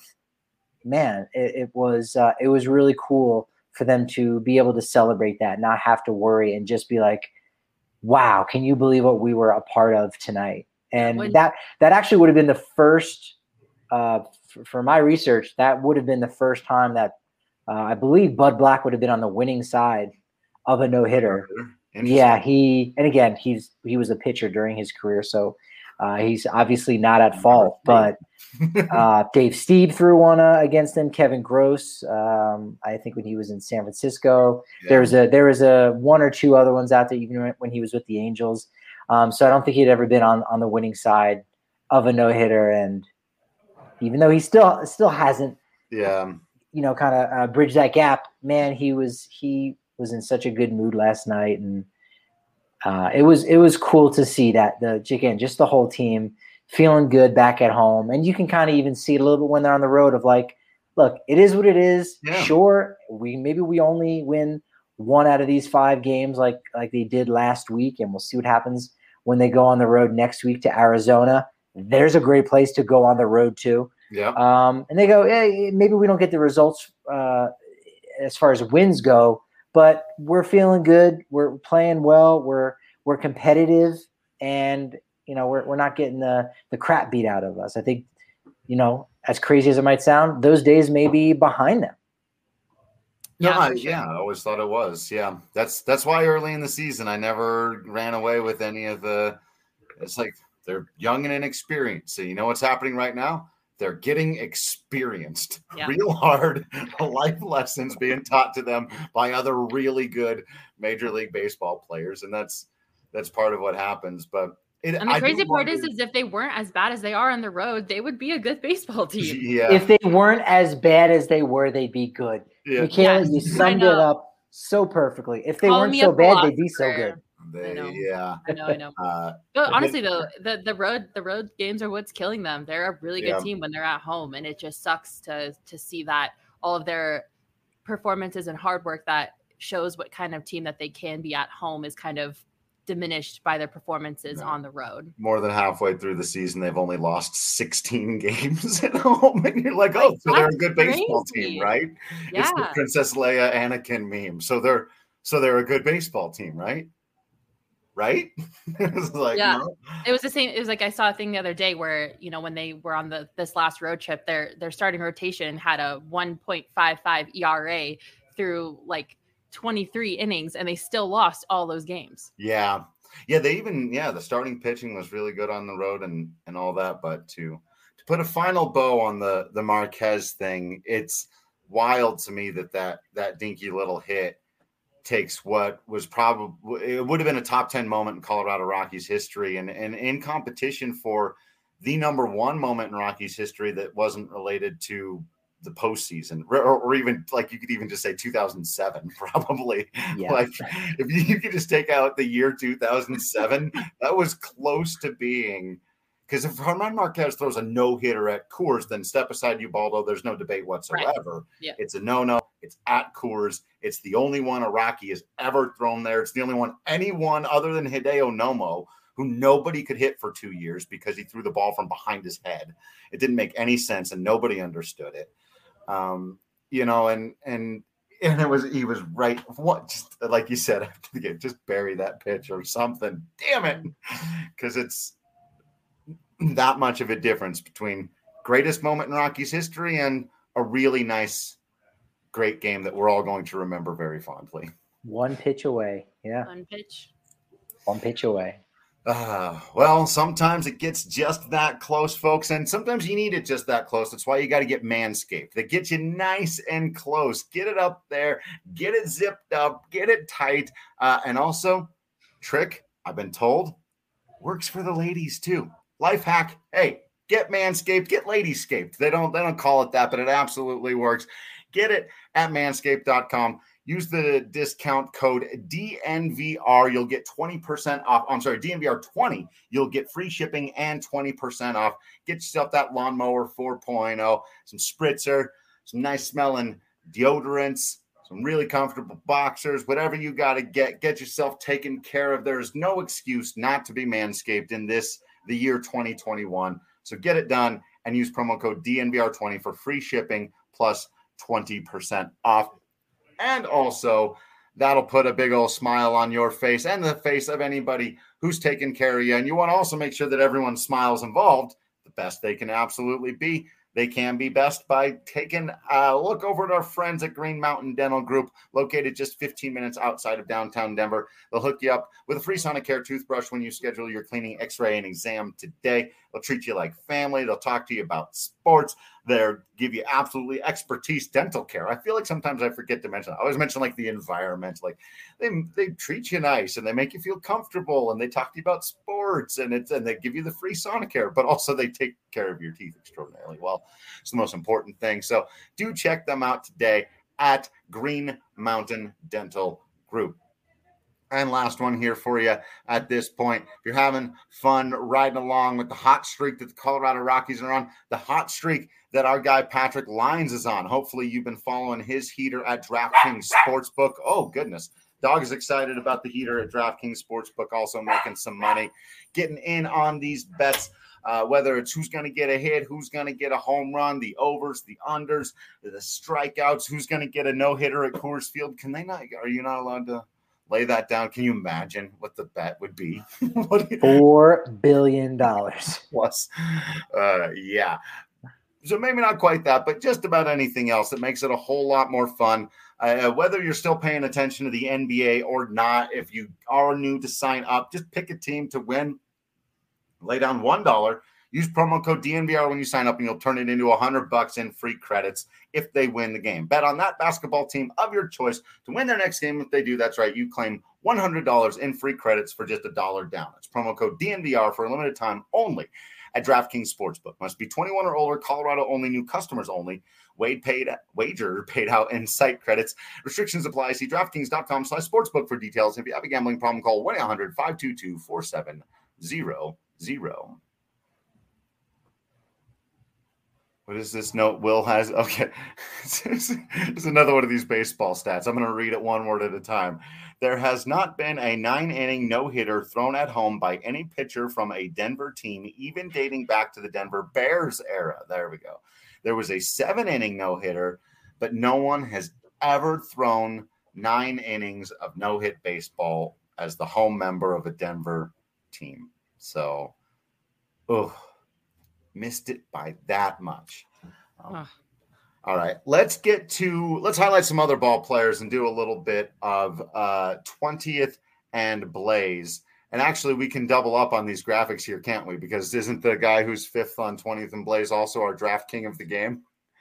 Man, it, it was uh, it was really cool for them to be able to celebrate that, not have to worry, and just be like, wow, can you believe what we were a part of tonight? And when, that that actually would have been the first, uh, for, for my research, that would have been the first time that Uh, I believe Bud Black would have been on the winning side of a no-hitter. Yeah, he and again he's he was a pitcher during his career, so uh, he's obviously not at fault. But uh, Dave Stieb threw one uh, against him. Kevin Gross, um, I think when he was in San Francisco, yeah. there was a there was a one or two other ones out there even when he was with the Angels. Um, so I don't think he'd ever been on on the winning side of a no-hitter, and even though he still still hasn't. Yeah. you know, kind of uh, bridge that gap, man, he was, he was in such a good mood last night. And uh, it was, it was cool to see that the, again, just the whole team feeling good back at home. And you can kind of even see it a little bit when they're on the road of like, look, it is what it is. Yeah. Sure. We, maybe we only win one out of these five games like, like they did last week. And we'll see what happens when they go on the road next week to Arizona. There's a great place to go on the road to. Yeah. Um, and they go, hey, maybe we don't get the results uh, as far as wins go, but we're feeling good. We're playing well. We're we're competitive, and you know we're we're not getting the the crap beat out of us. I think, you know, as crazy as it might sound, those days may be behind them. No, yeah, I, yeah, I always thought it was. Yeah, that's that's why early in the season I never ran away with any of the. It's like they're young and inexperienced. So you know what's happening right now? They're getting experienced, yeah. real hard life lessons being taught to them by other really good Major League Baseball players, and that's that's part of what happens. But it, and the I crazy part is, is if they weren't as bad as they are on the road, they would be a good baseball team. Yeah. If they weren't as bad as they were, they'd be good. Yeah. Michaela, yes, you summed it up so perfectly. If they Call weren't so bad, they'd be so good. They, I know. Yeah, I know, I know. Uh, but honestly, though, the the road the road games are what's killing them. They're a really good yeah. team when they're at home, and it just sucks to to see that all of their performances and hard work that shows what kind of team that they can be at home is kind of diminished by their performances yeah. on the road. More than halfway through the season, they've only lost sixteen games at home, and you're like, oh, like, so they're a good baseball crazy. team, right? Yeah. It's the Princess Leia Anakin meme. So they're so they're a good baseball team, right? Right? It was like, yeah, no. It was the same. It was like I saw a thing the other day where, you know, when they were on the this last road trip, their their starting rotation had a one point five five E R A through like twenty-three innings, and they still lost all those games. Yeah, yeah. They even yeah, the starting pitching was really good on the road and and all that. But to to put a final bow on the the Marquez thing, it's wild to me that that that dinky little hit takes what was probably it would have been a top ten moment in Colorado Rockies history, and and in competition for the number one moment in Rockies history that wasn't related to the postseason, or, or even like you could even just say two thousand seven, probably. Yeah. Like if you, you could just take out the year two thousand seven, that was close to being. Because if Germán Marquez throws a no-hitter at Coors, then step aside Ubaldo. There's no debate whatsoever. Right. Yeah. It's a no-no. It's at Coors. It's the only one a Rocky has ever thrown there. It's the only one anyone other than Hideo Nomo, who nobody could hit for two years because he threw the ball from behind his head. It didn't make any sense, and nobody understood it. Um, you know, and and and it was he was right. What, just like you said, just bury that pitch or something. Damn it, because it's that much of a difference between greatest moment in Rockies history and a really nice, great game that we're all going to remember very fondly. One pitch away. Yeah. One pitch. One pitch away. Uh, well, sometimes it gets just that close, folks, and sometimes you need it just that close. That's why you got to get Manscaped. They get you nice and close. Get it up there. Get it zipped up. Get it tight. Uh, and also, trick, I've been told, works for the ladies too. Life hack, hey, get Manscaped, get Ladyscaped. They don't, they don't call it that, but it absolutely works. Get it at manscaped dot com. Use the discount code D N V R. You'll get twenty percent off. I'm sorry, D N V R twenty. You'll get free shipping and twenty percent off. Get yourself that lawnmower four point oh, some spritzer, some nice smelling deodorants, some really comfortable boxers, whatever you got to get. Get yourself taken care of. There is no excuse not to be Manscaped in this, the year twenty twenty-one. So get it done and use promo code D N V R twenty for free shipping plus twenty percent off. And also, that'll put a big old smile on your face and the face of anybody who's taking care of you. And you want to also make sure that everyone's smiles involved the best they can absolutely be. They can be best by taking a look over at our friends at Green Mountain Dental Group, located just fifteen minutes outside of downtown Denver. They'll hook you up with a free Sonicare toothbrush when you schedule your cleaning, x-ray, and exam today. They'll treat you like family. They'll talk to you about sports. They'll give you absolutely expertise dental care. I feel like sometimes I forget to mention, I always mention like the environment, like they they treat you nice and they make you feel comfortable and they talk to you about sports and it's and they give you the free Sonicare, but also they take care of your teeth extraordinarily well. It's the most important thing. So do check them out today at Green Mountain Dental Group. And last one here for you at this point. If you're having fun riding along with the hot streak that the Colorado Rockies are on, the hot streak that our guy Patrick Lyons is on. Hopefully you've been following his heater at DraftKings Sportsbook. Oh, goodness. Dog is excited about the heater at DraftKings Sportsbook, also making some money, getting in on these bets, uh, whether it's who's going to get a hit, who's going to get a home run, the overs, the unders, the strikeouts, who's going to get a no-hitter at Coors Field. Can they not? Are you not allowed to lay that down? Can you imagine what the bet would be? Four billion dollars plus. Uh, yeah. So maybe not quite that, but just about anything else that makes it a whole lot more fun. Uh, whether you're still paying attention to the N B A or not, if you are new to sign up, just pick a team to win. Lay down one dollar. Use promo code D N V R when you sign up, and you'll turn it into a hundred bucks in free credits if they win the game. Bet on that basketball team of your choice to win their next game. If they do, that's right, you claim one hundred dollars in free credits for just a dollar down. It's promo code D N V R for a limited time only at DraftKings Sportsbook. Must be twenty-one or older, Colorado only, new customers only. Wade paid wager paid out in site credits. Restrictions apply. See DraftKings.com slash sportsbook for details. If you have a gambling problem, call one eight hundred five two two four seven zero zero. What is this note Will has? Okay. It's another one of these baseball stats. I'm going to read it one word at a time. There has not been a nine-inning no-hitter thrown at home by any pitcher from a Denver team, even dating back to the Denver Bears era. There we go. There was a seven-inning no-hitter, but no one has ever thrown nine innings of no-hit baseball as the home member of a Denver team. So, oh, missed it by that much. Um, huh. All right, let's get to, let's highlight some other ball players and do a little bit of uh, twentieth and Blaze. And actually, we can double up on these graphics here, can't we? Because isn't the guy who's fifth on twentieth and Blaze also our draft king of the game?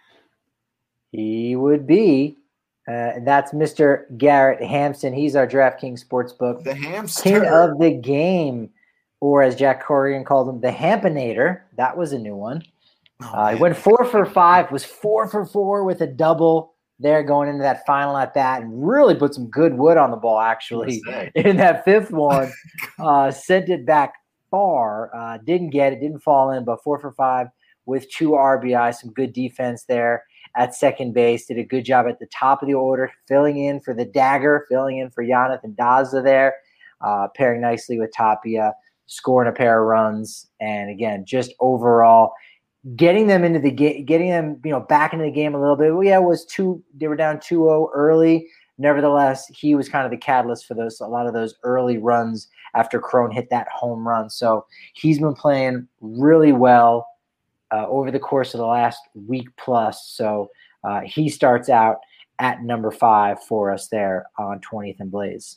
He would be. Uh, that's Mister Garrett Hampson. He's our DraftKings Sportsbook. The Hamster. King of the game, or as Jack Corrigan called him, the Hampinator. That was a new one. Oh, uh, he went four for five, was four for four with a double there going into that final at bat, and really put some good wood on the ball, actually, in that fifth one. uh, sent it back far. Uh, didn't get it, didn't fall in, but four for five with two R B I, some good defense there at second base. Did a good job at the top of the order, filling in for the dagger, filling in for Jonathan Daza there, uh, pairing nicely with Tapia, scoring a pair of runs, and again, just overall getting them into the game, getting them, you know, back into the game a little bit. Well, yeah, it was two. They were down two oh early. Nevertheless, he was kind of the catalyst for those, a lot of those early runs after Cron hit that home run. So he's been playing really well uh, over the course of the last week plus. So uh, he starts out at number five for us there on twentieth and Blaze.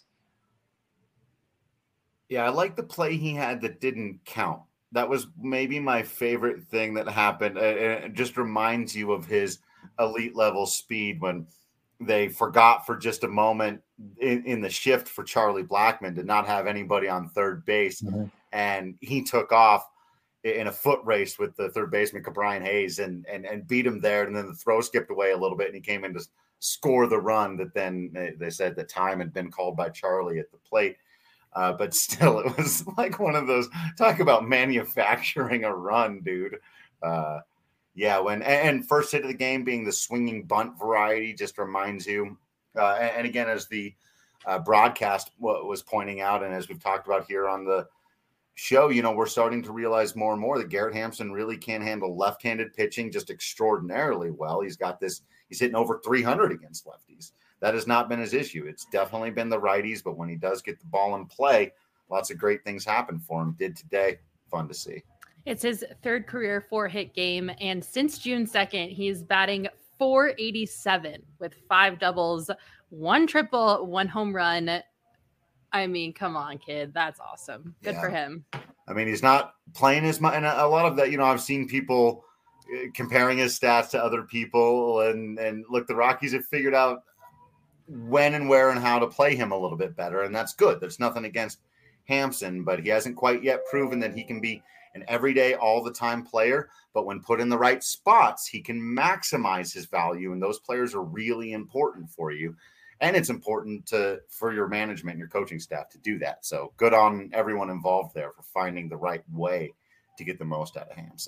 Yeah, I like the play he had that didn't count. That was maybe my favorite thing that happened. It just reminds you of his elite level speed when they forgot for just a moment in, in the shift for Charlie Blackmon to not have anybody on third base. Mm-hmm. And he took off in a foot race with the third baseman, Brian Hayes, and, and, and beat him there. And then the throw skipped away a little bit and he came in to score the run that then they, they said the time had been called by Charlie at the plate. Uh, but still, it was like one of those, talk about manufacturing a run, dude. Uh, yeah, when and first hit of the game being the swinging bunt variety just reminds you. Uh, and, and again, as the uh, broadcast w- was pointing out, and as we've talked about here on the show, you know, we're starting to realize more and more that Garrett Hampson really can handle left-handed pitching just extraordinarily well. He's got this, he's hitting over three hundred against lefties. That has not been his issue. It's definitely been the righties, but when he does get the ball in play, lots of great things happen for him. Did today. Fun to see. It's his third career four-hit game, and since June second, he's batting four eighty-seven with five doubles, one triple, one home run. I mean, come on, kid. That's awesome. Good yeah. for him. I mean, he's not playing as much, and a lot of that, you know, I've seen people comparing his stats to other people, and, and look, the Rockies have figured out when and where and how to play him a little bit better. And that's good. There's nothing against Hampson, but he hasn't quite yet proven that he can be an everyday, all the time player. But when put in the right spots, he can maximize his value. And those players are really important for you. And it's important to, for your management and your coaching staff to do that. So good on everyone involved there for finding the right way to get the most out of Hampson.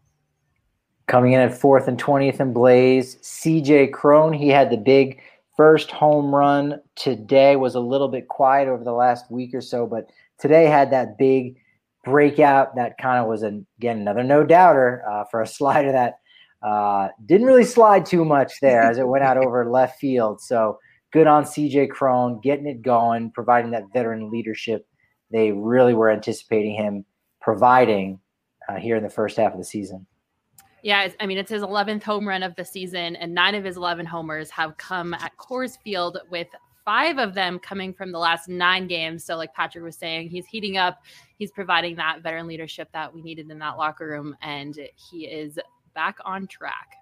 Coming in at fourth and twentieth and Blaze, C J Cron. He had the big first home run today. Was a little bit quiet over the last week or so, but today had that big breakout that kind of was, an, again, another no-doubter uh, for a slider that uh, didn't really slide too much there as it went out over left field. So good on C J Cron, getting it going, providing that veteran leadership they really were anticipating him providing uh, here in the first half of the season. Yeah, I mean, it's his eleventh home run of the season, and nine of his eleven homers have come at Coors Field, with five of them coming from the last nine games. So like Patrick was saying, he's heating up. He's providing that veteran leadership that we needed in that locker room, and he is back on track.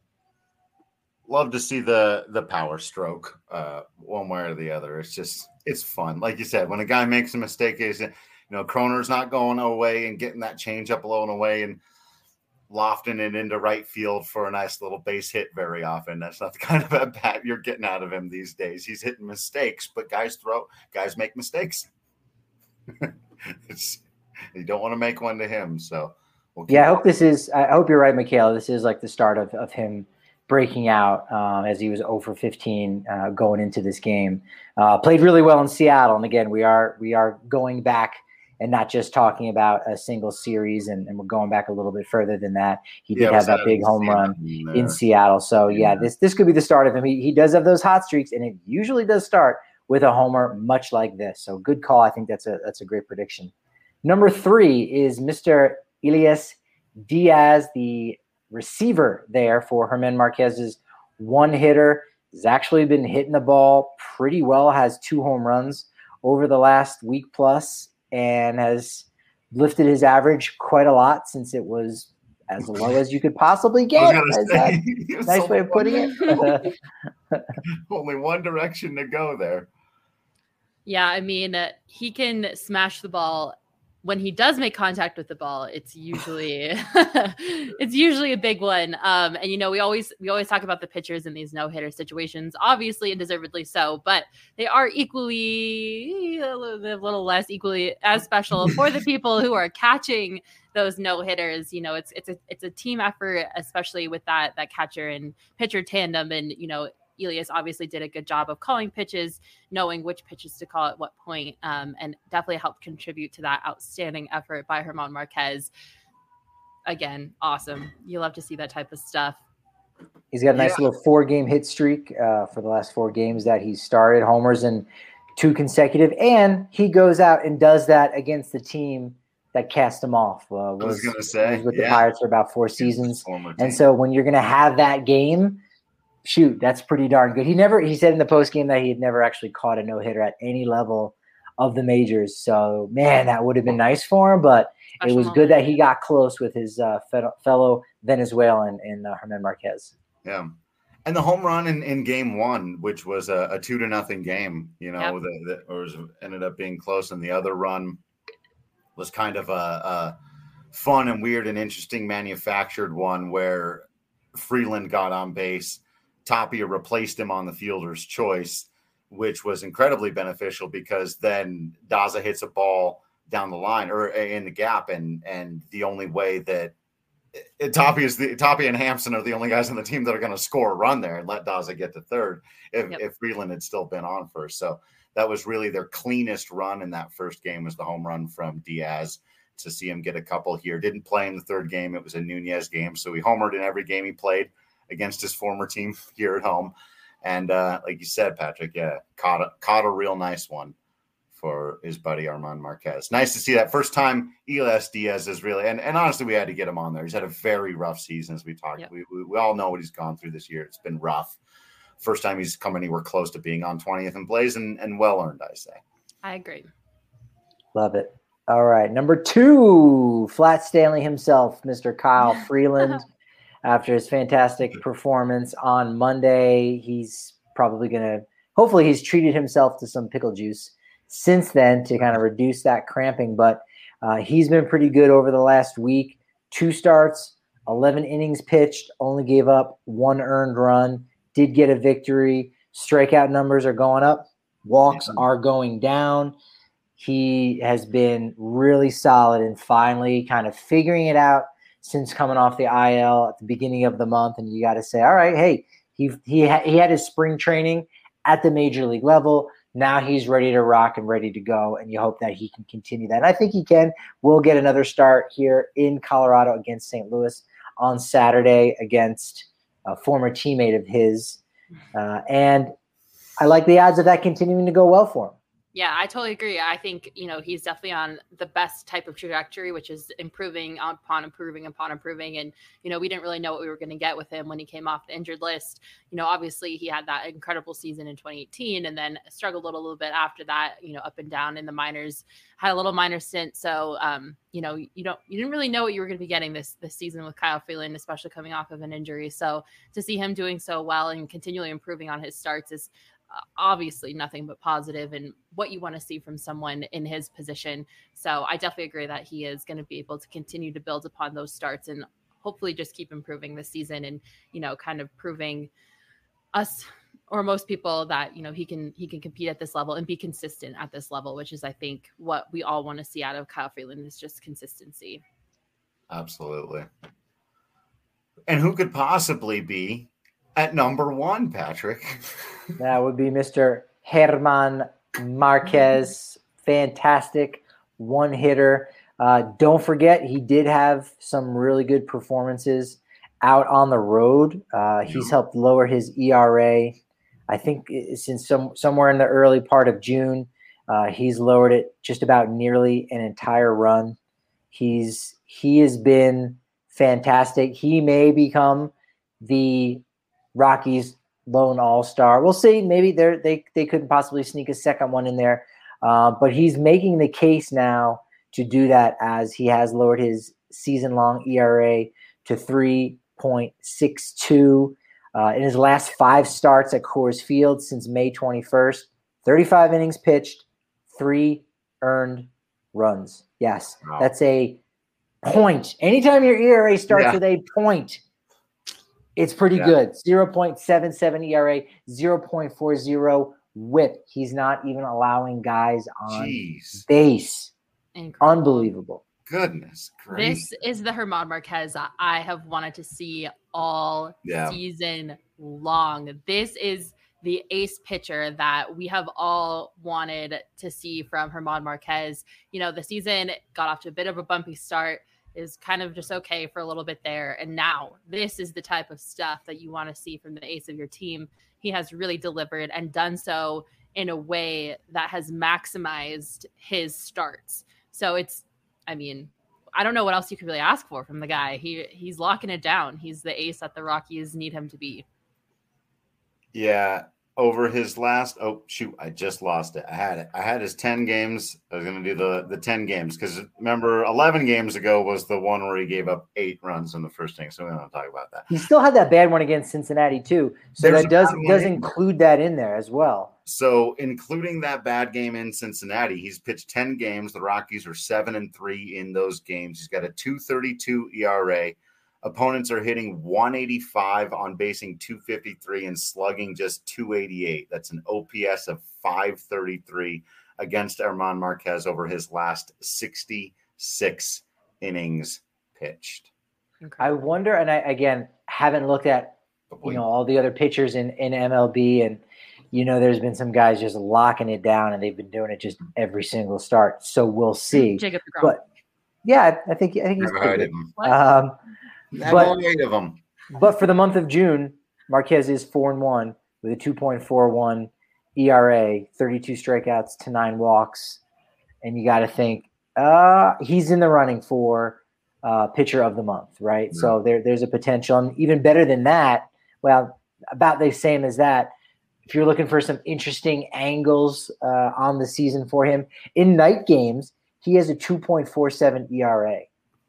Love to see the the power stroke uh, one way or the other. It's just, it's fun. Like you said, when a guy makes a mistake, is you know, Croner's not going away and getting that change up low and away and lofting it into right field for a nice little base hit very often. That's not the kind of at bat you're getting out of him these days. He's hitting mistakes, but guys throw, guys make mistakes. It's, you don't want to make one to him. So, we'll yeah, I hope this is, I hope you're right, Michaela. This is like the start of, of him breaking out um, as he was oh for fifteen uh, going into this game. Uh, played really well in Seattle. And again, we are, we are going back and not just talking about a single series, and, and we're going back a little bit further than that. He did yeah, have that big home run there in Seattle. So yeah, yeah, this this could be the start of him. He, he does have those hot streaks, and it usually does start with a homer, much like this. So good call. I think that's a that's a great prediction. Number three is Mister Elias Diaz, the receiver there for German Marquez's one hitter. He's actually been hitting the ball pretty well, has two home runs over the last week plus, and has lifted his average quite a lot since it was as low as you could possibly get. Say, nice way of putting it. Only one direction to go there. Yeah, I mean, uh, he can smash the ball when he does make contact with the ball, it's usually it's usually a big one. Um, and you know, we always we always talk about the pitchers in these no-hitter situations, obviously and deservedly so, but they are equally a little, a little less equally as special for the people who are catching those no-hitters. You know, it's it's a it's a team effort, especially with that that catcher and pitcher tandem. And you know, Elias obviously did a good job of calling pitches, knowing which pitches to call at what point, um, and definitely helped contribute to that outstanding effort by German Marquez. Again, awesome. You love to see that type of stuff. He's got a nice yeah. little four-game hit streak uh, for the last four games that he started, homers in two consecutive, and he goes out and does that against the team that cast him off. Uh, was, I was going to say. Was with yeah. the Pirates for about four seasons. And so when you're going to have that game, shoot, that's pretty darn good. He never, he said in the post game that he had never actually caught a no hitter at any level of the majors. So, man, that would have been nice for him. But Special it was moment. good that he got close with his uh, fellow Venezuelan in uh, German Marquez. Yeah, and the home run in, in game one, which was a, a two to nothing game, you know, yep. that or was, ended up being close, and the other run was kind of a, a fun and weird and interesting manufactured one where Freeland got on base. Tapia replaced him on the fielder's choice, which was incredibly beneficial because then Daza hits a ball down the line or in the gap. And, and the only way that it, Tapia is the Tapia and Hampson are the only guys on the team that are going to score a run there and let Daza get to third if, yep. if Freeland had still been on first. So that was really their cleanest run in that first game was the home run from Diaz. To see him get a couple here. Didn't play in the third game. It was a Nunez game. So he homered in every game he played against his former team here at home. And uh, like you said, Patrick, yeah, caught a, caught a real nice one for his buddy German Marquez. Nice to see that first time Elias Diaz is really, and, and honestly, we had to get him on there. He's had a very rough season as we talked. Yep. We, we we all know what he's gone through this year. It's been rough. First time he's come anywhere close to being on twentieth in plays and, and well earned, I say. I agree. Love it. All right. Number two, Flat Stanley himself, Mister Kyle Freeland. After his fantastic performance on Monday, he's probably going to – hopefully he's treated himself to some pickle juice since then to kind of reduce that cramping. But uh, he's been pretty good over the last week. Two starts, eleven innings pitched, only gave up one earned run, did get a victory. Strikeout numbers are going up. Walks are going down. He has been really solid and finally kind of figuring it out since coming off the I L at the beginning of the month. And you got to say, all right, hey, he he, ha- he had his spring training at the major league level. Now he's ready to rock and ready to go. And you hope that he can continue that. And I think he can. We'll get another start here in Colorado against Saint Louis on Saturday against a former teammate of his. Uh, and I like the odds of that continuing to go well for him. Yeah, I totally agree. I think, you know, he's definitely on the best type of trajectory, which is improving upon improving upon improving. And, you know, we didn't really know what we were going to get with him when he came off the injured list. You know, obviously he had that incredible season in twenty eighteen and then struggled a little, little bit after that, you know, up and down in the minors, had a little minor stint. So, um, you know, you don't, you didn't really know what you were going to be getting this, this season with Kyle Freeland, especially coming off of an injury. So to see him doing so well and continually improving on his starts is obviously nothing but positive and what you want to see from someone in his position. So I definitely agree that he is going to be able to continue to build upon those starts and hopefully just keep improving this season and, you know, kind of proving us or most people that, you know, he can, he can compete at this level and be consistent at this level, which is, I think, what we all want to see out of Kyle Freeland is just consistency. Absolutely. And who could possibly be at number one, Patrick? That would be Mister German Marquez. Fantastic one hitter. Uh, don't forget, he did have some really good performances out on the road. Uh, he's helped lower his E R A. I think since some somewhere in the early part of June, uh, he's lowered it just about nearly an entire run. He's he has been fantastic. He may become the Rockies lone all-star. We'll see. Maybe they they they couldn't possibly sneak a second one in there, uh, but he's making the case now to do that as he has lowered his season-long E R A to three point six two uh, in his last five starts at Coors Field since May twenty-first. thirty-five innings pitched, three earned runs. Yes, Wow. that's a point. Anytime your E R A starts Yeah. with a point, it's pretty Yeah. good. zero point seven seven E R A, zero point four zero whip. He's not even allowing guys on Jeez. base. Incredible. Unbelievable. Goodness gracious. This is the Germán Marquez I have wanted to see all Yeah. season long. This is the ace pitcher that we have all wanted to see from Germán Marquez. You know, the season got off to a bit of a bumpy start, is kind of just okay for a little bit there. And now this is the type of stuff that you want to see from the ace of your team. He has really delivered and done so in a way that has maximized his starts. So it's, I mean, I don't know what else you could really ask for from the guy. He he's locking it down. He's the ace that the Rockies need him to be. Yeah, over his last oh shoot, I just lost it. I had it. I had his ten games. I was gonna do the the ten games because remember eleven games ago was the one where he gave up eight runs in the first inning. So we don't want to talk about that. He still had that bad one against Cincinnati too. So There's that a does bad one does in include that in there as well. So including that bad game in Cincinnati, he's pitched ten games. The Rockies are seven and three in those games. He's got a two thirty-two E R A. Opponents are hitting one eighty-five, on basing two fifty-three, and slugging just two eighty-eight. That's an O P S of five thirty-three against Germán Marquez over his last sixty-six innings pitched. I wonder, and I again haven't looked at you know all the other pitchers in, in M L B, and you know there's been some guys just locking it down, and they've been doing it just every single start. So we'll see. Jacob deGrom. But yeah, I think I think he's Never pretty heard good. of him. What? Um, Never but- heard of him. But for the month of June, Marquez is four and one with a two point four one E R A, thirty-two strikeouts to nine walks, and you got to think uh, he's in the running for uh, pitcher of the month, right? Yeah. So there, there's a potential, and even better than that. Well, about the same as that. If you're looking for some interesting angles uh, on the season for him in night games, he has a two point four seven E R A.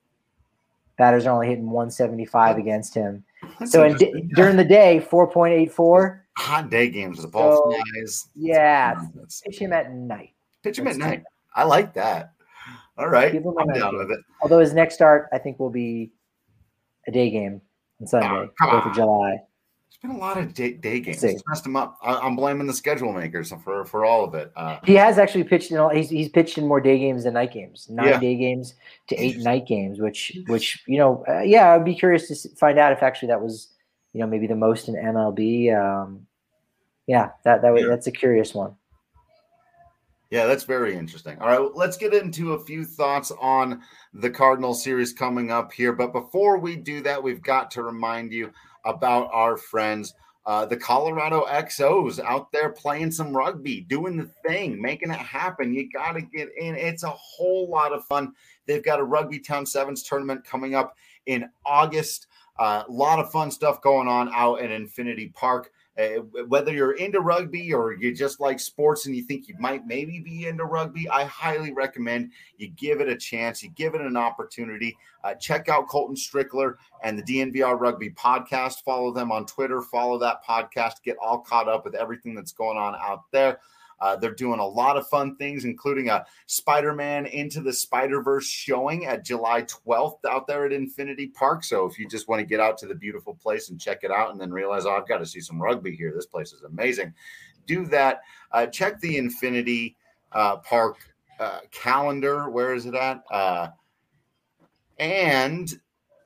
Batters are only hitting one seventy-five against him. That's So in, interesting. during the day, four point eight four. Hot day games, the ball So, flies. Yeah, That's- pitch him at night. pitch him at That's night. I like that. All right, Give him a I'm night down game. with it. Although his next start, I think, will be a day game on Sunday, Oh, come fourth on. of July. There's been a lot of day, day games. See. It's messed him up. I, I'm blaming the schedule makers for for all of it. Uh, He has actually pitched in all, he's he's pitched in more day games than night games. Nine Yeah. day games to eight Interesting. night games, which which you know, uh, yeah, I'd be curious to s- find out if actually that was you know maybe the most in M L B. Um, yeah, that that Yeah. that's a curious one. Yeah, that's very interesting. All right, let's get into a few thoughts on the Cardinal series coming up here. But before we do that, we've got to remind you about our friends, uh, the Colorado X Os, out there playing some rugby, doing the thing, making it happen. You got to get in. It's a whole lot of fun. They've got a Rugby Town Sevens tournament coming up in August. A uh, lot of fun stuff going on out at Infinity Park. Uh, whether you're into rugby or you just like sports and you think you might maybe be into rugby, I highly recommend you give it a chance. You give it an opportunity. Uh, check out Colton Strickler and the D N V R Rugby podcast. Follow them on Twitter. Follow that podcast. Get all caught up with everything that's going on out there. Uh, they're doing a lot of fun things, including a Spider-Man Into the Spider-Verse showing at July twelfth out there at Infinity Park. So if you just want to get out to the beautiful place and check it out and then realize, oh, I've got to see some rugby here. This place is amazing. Do that. Uh, check the Infinity uh, Park uh, calendar. Where is it at? Uh, and...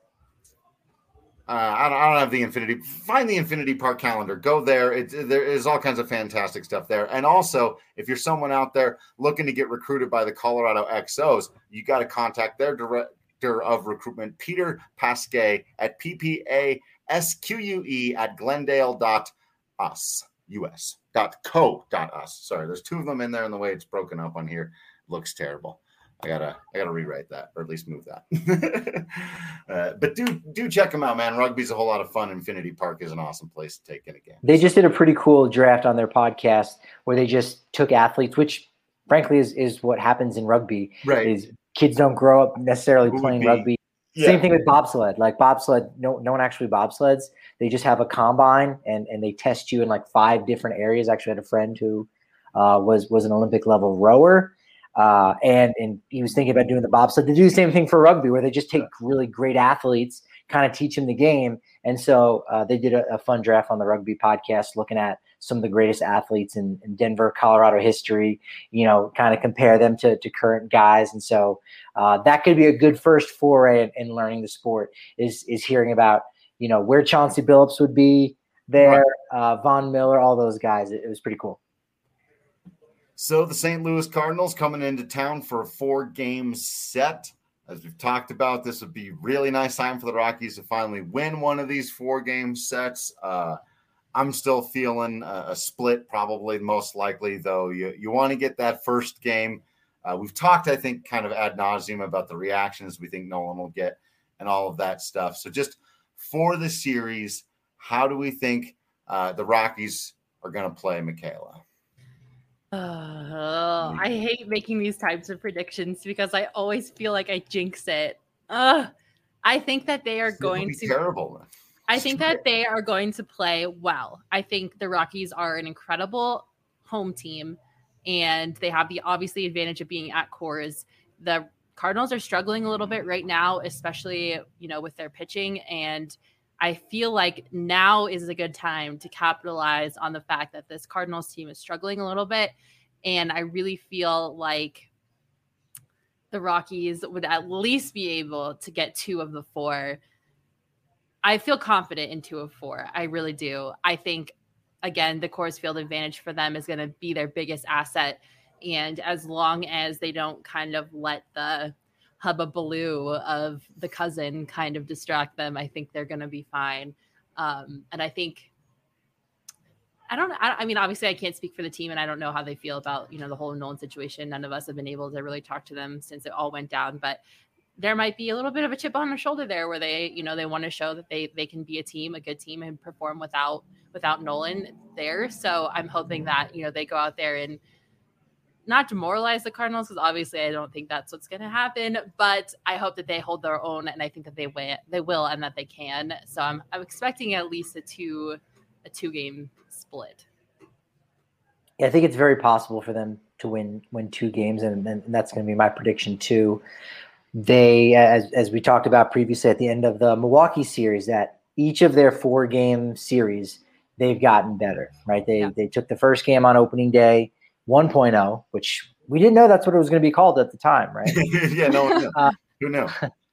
Uh, I, don't, I don't have the Infinity. Find the Infinity Park calendar. Go there. It, there is all kinds of fantastic stuff there. And also, if you're someone out there looking to get recruited by the Colorado X Os, you got to contact their director of recruitment, Peter Pasquet, at P P A S Q U E at Glendale dot us, U S dot co dot us. Sorry, there's two of them in there, and the way it's broken up on here looks terrible. I gotta, I gotta rewrite that, or at least move that. uh, but do, do check them out, man. Rugby's a whole lot of fun. Infinity Park is an awesome place to take in a game. They just did a pretty cool draft on their podcast where they just took athletes, which frankly is, is what happens in rugby. Right. Is kids don't grow up necessarily Who would playing be- rugby. Yeah. Same thing with bobsled. Like bobsled, no, no one actually bobsleds. They just have a combine and, and they test you in like five different areas. I actually had a friend who uh, was was an Olympic level rower. Uh, and and he was thinking about doing the bobsled. They do the same thing for rugby, where they just take really great athletes, kind of teach them the game. And so uh, they did a, a fun draft on the Rugby Podcast, looking at some of the greatest athletes in, in Denver, Colorado history. You know, kind of compare them to to current guys. And so uh, that could be a good first foray in, in learning the sport. Is is hearing about you know where Chauncey Billups would be there, right. uh, Von Miller, all those guys. It, it was pretty cool. So the Saint Louis Cardinals coming into town for a four-game set. As we've talked about, this would be really nice time for the Rockies to finally win one of these four-game sets. Uh, I'm still feeling a, a split, probably most likely, though. You, you want to get that first game. Uh, we've talked, I think, kind of ad nauseum about the reactions we think Nolan will get and all of that stuff. So just for the series, how do we think uh, the Rockies are going to play, Michaela? Uh, I hate making these types of predictions because I always feel like I jinx it. Uh, I think that they are It's going be to terrible. I think that they are going to play well. I think the Rockies are an incredible home team, and they have the obviously advantage of being at Coors. The Cardinals are struggling a little bit right now, especially you know with their pitching, and I feel like now is a good time to capitalize on the fact that this Cardinals team is struggling a little bit. And I really feel like the Rockies would at least be able to get two of the four. I feel confident in two of four. I really do. I think, again, the Coors Field advantage for them is going to be their biggest asset. And as long as they don't kind of let the hubbubaloo of the cousin kind of distract them, I think they're going to be fine. Um, and I think, I don't I, I mean, obviously I can't speak for the team and I don't know how they feel about, you know, the whole Nolan situation. None of us have been able to really talk to them since it all went down, but there might be a little bit of a chip on their shoulder there where they, you know, they want to show that they, they can be a team, a good team and perform without, without Nolan there. So I'm hoping that, you know, they go out there and not demoralize the Cardinals, because obviously I don't think that's what's going to happen, but I hope that they hold their own, and I think that they will, they will, and that they can. So I'm I'm expecting at least a two a two game split. Yeah, I think it's very possible for them to win win two games, and, and that's going to be my prediction too. They, as as we talked about previously at the end of the Milwaukee series, that each of their four game series they've gotten better. Right? They yeah. they took the first game on opening day one point oh, which we didn't know that's what it was going to be called at the time, right? yeah, no one knew. Uh, Who knew?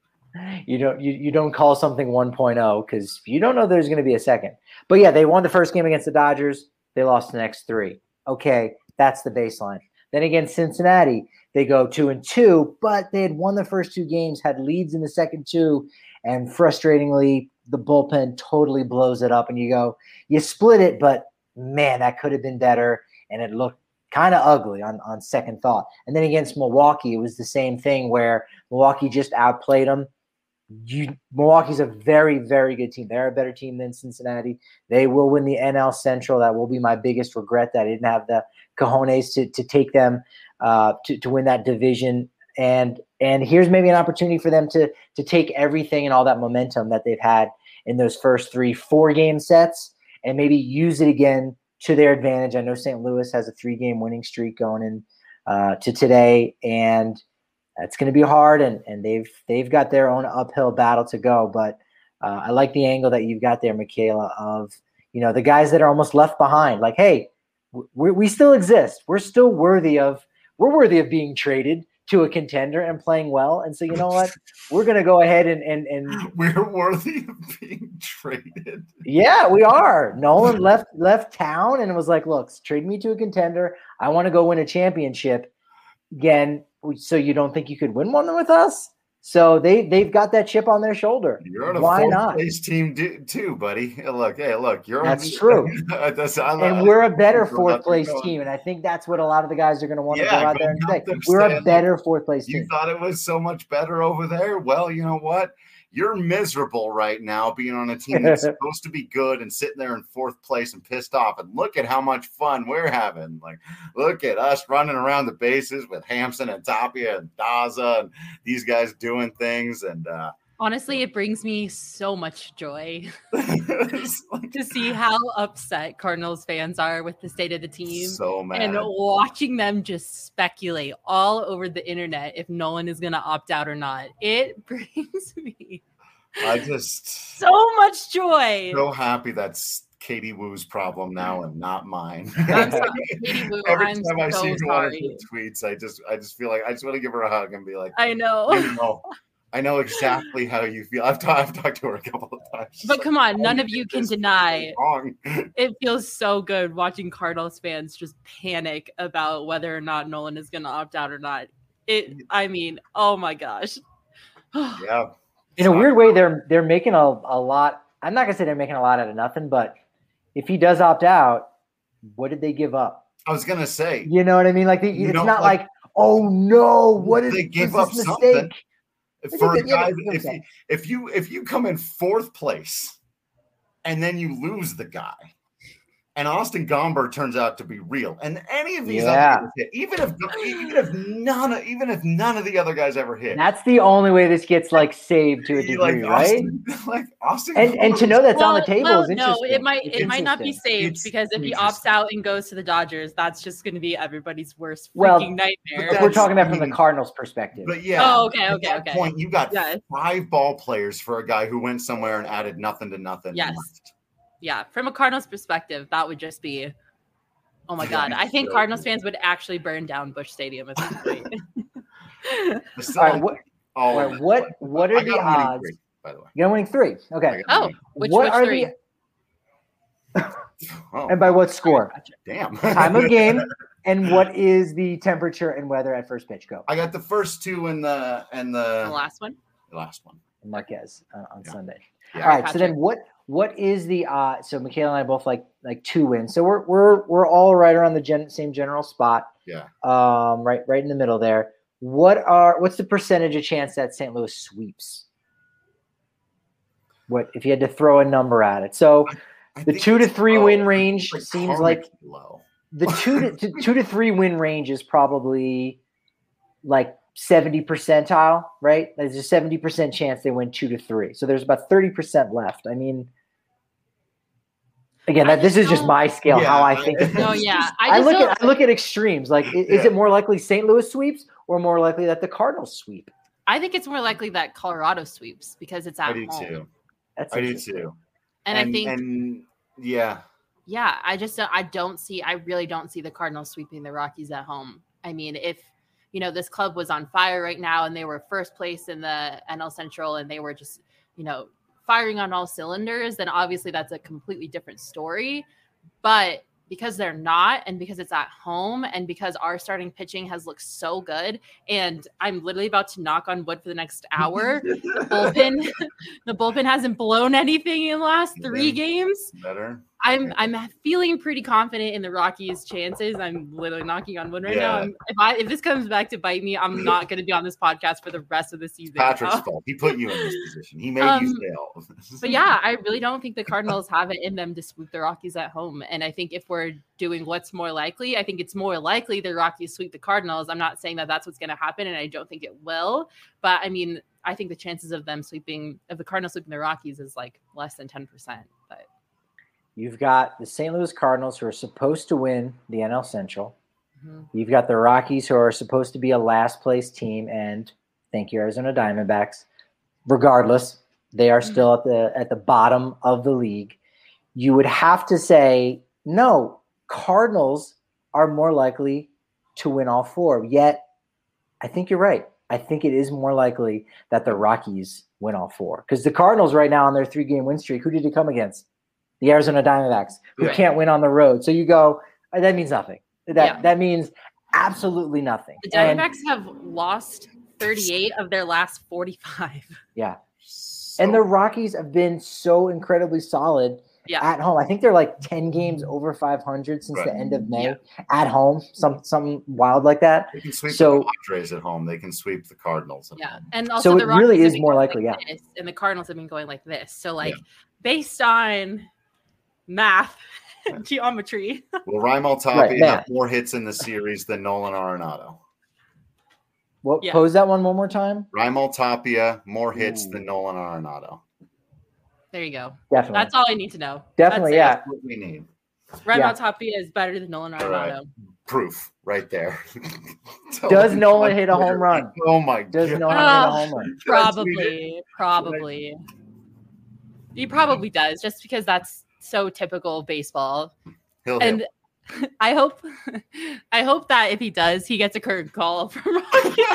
You don't you, you don't call something one point oh because you don't know there's going to be a second. But yeah, they won the first game against the Dodgers. They lost the next three. Okay, that's the baseline. Then against Cincinnati, they go two and two, but they had won the first two games, had leads in the second two, and frustratingly, the bullpen totally blows it up. And you go, you split it, but man, that could have been better, and it looked kind of ugly on, on second thought. And then against Milwaukee, it was the same thing where Milwaukee just outplayed them. You, Milwaukee's a very, very good team. They're a better team than Cincinnati. They will win the N L Central. That will be my biggest regret that I didn't have the cojones to, to take them uh, to, to win that division. And and here's maybe an opportunity for them to to take everything and all that momentum that they've had in those first three, four game sets and maybe use it again to their advantage. I know Saint Louis has a three-game winning streak going in uh, to today, and it's going to be hard. And and they've they've got their own uphill battle to go. But uh, I like the angle that you've got there, Michaela, of you know the guys that are almost left behind. Like, hey, we we still exist. We're still worthy of we're worthy of being traded to a contender and playing well. And so you know what? We're going to go ahead and and and we're worthy of being traded. Yeah, we are. Nolan left left town and was like, look, trade me to a contender. I want to go win a championship again. So you don't think you could win one with us? So they they've got that chip on their shoulder. You're on a Why fourth not? place team do, too, buddy. Hey, look, hey, look, you're that's on, true. that's, I, and I, we're a better fourth place team, and I think that's what a lot of the guys are going to want to yeah, go out there and say. We're a better fourth place you team. You thought it was so much better over there? Well, you know what? You're miserable right now being on a team that's supposed to be good and sitting there in fourth place and pissed off. And look at how much fun we're having. Like, look at us running around the bases with Hampson and Tapia and Daza and these guys doing things. And uh, Honestly, it brings me so much joy to see how upset Cardinals fans are with the state of the team. So mad. And watching them just speculate all over the internet if Nolan is going to opt out or not. It brings me I just so much joy. So happy that's Katie Woo's problem now and not mine. I'm sorry, Katie Woo. Every I'm time I so see one of sorry. her tweets, I just I just feel like I just want to give her a hug and be like, I know. you know, I know exactly how you feel. I've, ta- I've talked to her a couple of times. But come on, none How of you did can this deny go wrong? it feels so good watching Cardinals fans just panic about whether or not Nolan is going to opt out or not. It, I mean, oh my gosh. Yeah. In a weird way, they're they're making a, a lot. I'm not gonna say they're making a lot out of nothing, but if he does opt out, what did they give up? I was gonna say, You know what I mean? Like they, You it's know, not like- like, oh no, what is they gave what's up this something. mistake? For a think that- yeah, guy, but- if you, if you if you come in fourth place and then you lose the guy, and Austin Gomber turns out to be real, and any of these Yeah. other guys hit, even if even if none of, even if none of the other guys ever hit, That's the only way this gets like saved to a you degree, like right? Austin, like Austin, And and to know that's on the Well- table well, is no, interesting. it might It's it might not be interesting. saved It's because if he interesting. opts out and goes to the Dodgers, that's just going to be everybody's worst freaking Well, nightmare. If we're that's- talking about I from the mean- Cardinals' perspective. But yeah, Oh, okay, at okay, that okay. point, you got Yes. five ball players for a guy who went somewhere and added nothing to nothing. and Yes. left. Yeah, from a Cardinals perspective, that would just be, oh my Yeah, God. I think so- Cardinals fans would actually burn down Busch Stadium at this point. But still, All right, what all all of right, it. what what I are got the him winning odds? three, by the way. You're winning three. I Okay. got him Oh, winning. which, what which are three? the Oh, and by what score? damn. Time of game, and what is the temperature and weather at first pitch? Go. I got the first two and the and the, The last one? the last one. Marquez uh, on Yeah. Sunday. Yeah. All right. So Patrick. then, what what is the uh? So Michaela and I both like like two wins. So we're we're we're all right around the gen, same general spot. Yeah. Um, right right in the middle there. What are what's the percentage of chance that Saint Louis sweeps? What if you had to throw a number at it? So I the think two to it's three low. win range Like seems karmically like low. the two to, to two to three win range is probably like seventy percentile, right? There's a seventy percent chance they win two to three. So there's about thirty percent left. I mean, again, I that this just is just don't- my scale, Yeah, how I I- think of No, things. yeah. I I, just look don't, at I look at extremes. Like, i- is Yeah. it more likely Saint Louis sweeps or more likely that the Cardinals sweep? I think it's more likely that Colorado sweeps because it's at I do home. too. That's I do interesting. too. And, I think, and yeah, yeah, I just don't, I don't see, I really don't see the Cardinals sweeping the Rockies at home. I mean, if, you know, this club was on fire right now and they were first place in the N L Central and they were just, you know, firing on all cylinders, then obviously that's a completely different story. But because they're not, and because it's at home, and because our starting pitching has looked so good, and I'm literally about to knock on wood for the next hour, the bullpen, the bullpen hasn't blown anything in the last three Yeah. games. better. I'm I'm feeling pretty confident in the Rockies' chances. I'm literally knocking on wood right now. Yeah. I'm, if I if this comes back to bite me, I'm not going to be on this podcast for the rest of the season. Patrick's Uh, fault. He put you in this position. He made Um, you fail. But yeah, I really don't think the Cardinals have it in them to sweep the Rockies at home. And I think if we're doing what's more likely, I think it's more likely the Rockies sweep the Cardinals. I'm not saying that that's what's going to happen, and I don't think it will. But I mean, I think the chances of them sweeping, of the Cardinals sweeping the Rockies, is like less than ten percent. But You've got the Saint Louis Cardinals who are supposed to win the N L Central. mhm. You've got the Rockies who are supposed to be a last place team, and thank you, Arizona Diamondbacks. Regardless, they are still at the at the bottom of the league. You would have to say, no, Cardinals are more likely to win all four. Yet, I think you're right. I think it is more likely that the Rockies win all four. Because the Cardinals right now on their three-game win streak, who did it come against? The Arizona Diamondbacks, who Yeah. can't win on the road. So you go, "Uh, that means nothing. That Yeah. that means absolutely nothing. The And- Diamondbacks have lost thirty-eight of their last forty-five. yeah. So- And the Rockies have been so incredibly solid Yeah. at home. I think they're like ten games over five hundred since Right. the end of May Yeah. at home. Some something wild like that. They can sweep So- the Padres at home. They can sweep the Cardinals at Yeah. home. And also So the it Rockies really have is been more going likely, like yeah. this, and the Cardinals have been going like this. So like based on math, geometry. Will Raimel Tapia Right, have math. more hits in the series than Nolan Arenado? What Yeah. pose that one one more time? Raimel Tapia, more hits Ooh. than Nolan Arenado. There you go. Definitely. That's all I need to know. Definitely, That's yeah. That's what we need. Raimel Yeah. Tapia is better than Nolan All right. Arenado. Proof right there. Does Nolan hit a home run? Oh my Does god. Nolan hit a home run? Probably, probably. He probably does, just because that's so typical of baseball. He'll And hit. I hope, I hope that if he does, he gets a curtain call from Rocky,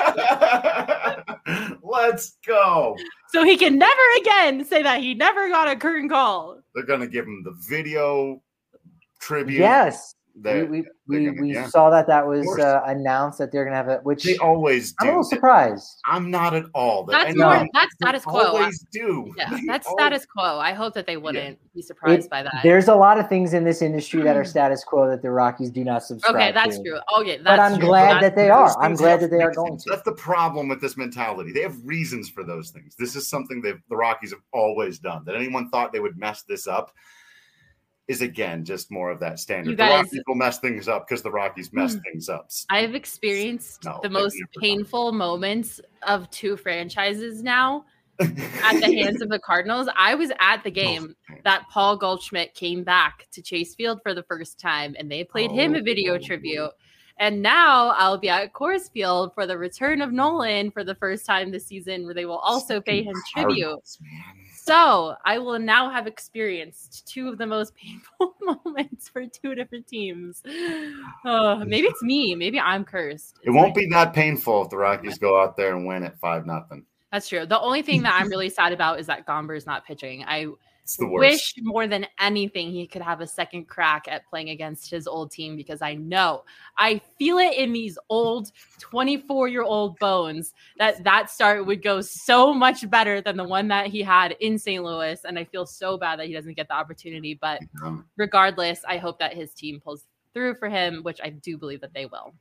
Let's go. so he can never again say that he never got a curtain call. They're gonna give him the video tribute. Yes. We They're- we, they're we, gonna- we yeah. saw that that Of was course. uh, announced that they're gonna have it, which They always I'm a do. little surprised. I'm not at all. That- That's and more. they- That's they status quo. Always do. Yeah, They that's always- status quo. I hope that they wouldn't be surprised It- by that. There's a lot of things in this industry that are status quo that the Rockies do not subscribe Okay, that's to. true. Okay, that's But I'm true. glad That's- that they Those are. I'm things glad have that they are reasons. going to. That's the problem with this mentality. They have reasons for those things. This is something that the Rockies have always done. That anyone thought they would mess this up is, again, just more of that standard. You the guys- Rockies will mess things up because the Rockies mess Hmm. things up. I've experienced No, the they've most never done painful moments of two franchises now at the hands of the Cardinals. I was at the game that Paul Goldschmidt came back to Chase Field for the first time, and they played him a video Oh. tribute. And now I'll be at Coors Field for the return of Nolan for the first time this season, where they will also pay him tribute. Cardinals, man. So I will now have experienced two of the most painful moments for two different teams. Oh, maybe it's me. Maybe I'm cursed. It won't be that painful if the Rockies go out there and win at five nothing. That's true. The only thing that I'm really sad about is that Gomber's not pitching. I It's the worst. wish more than anything he could have a second crack at playing against his old team, because I know, I feel it in these old twenty-four-year-old bones that that start would go so much better than the one that he had in Saint Louis. And I feel so bad that he doesn't get the opportunity. But Um, regardless, I hope that his team pulls through for him, which I do believe that they will.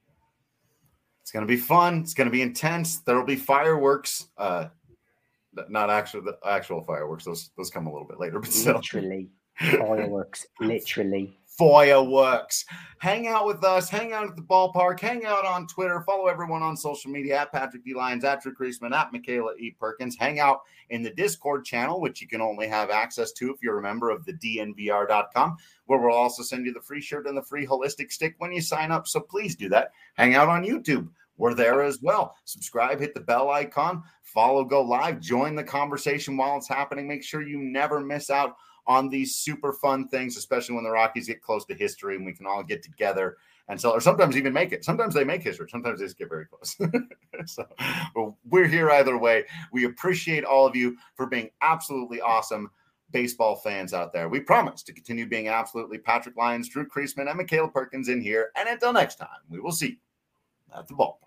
It's going to be fun. It's going to be intense. There will be fireworks. Uh, not actual the actual fireworks. Those those come a little bit later, but still. Literally. Fireworks. Literally. Fireworks. Hang out with us. Hang out at the ballpark. Hang out on Twitter. Follow everyone on social media at Patrick D. Lyons, at Drew Creasman, at Michaela E. Perkins. Hang out in the Discord channel, which you can only have access to if you're a member of the D N V R dot com, where we'll also send you the free shirt and the free holistic stick when you sign up. So please do that. Hang out on YouTube. We're there as well. Subscribe, hit the bell icon, follow, go live, join the conversation while it's happening. Make sure you never miss out on these super fun things, especially when the Rockies get close to history and we can all get together and so, or sometimes even make it. Sometimes they make history. Sometimes they just get very close. So well, we're here either way. We appreciate all of you for being absolutely awesome baseball fans out there. We promise to continue being absolutely Patrick Lyons, Drew Creasman, and Michaela Perkins in here. And until next time, we will see you at the ballpark.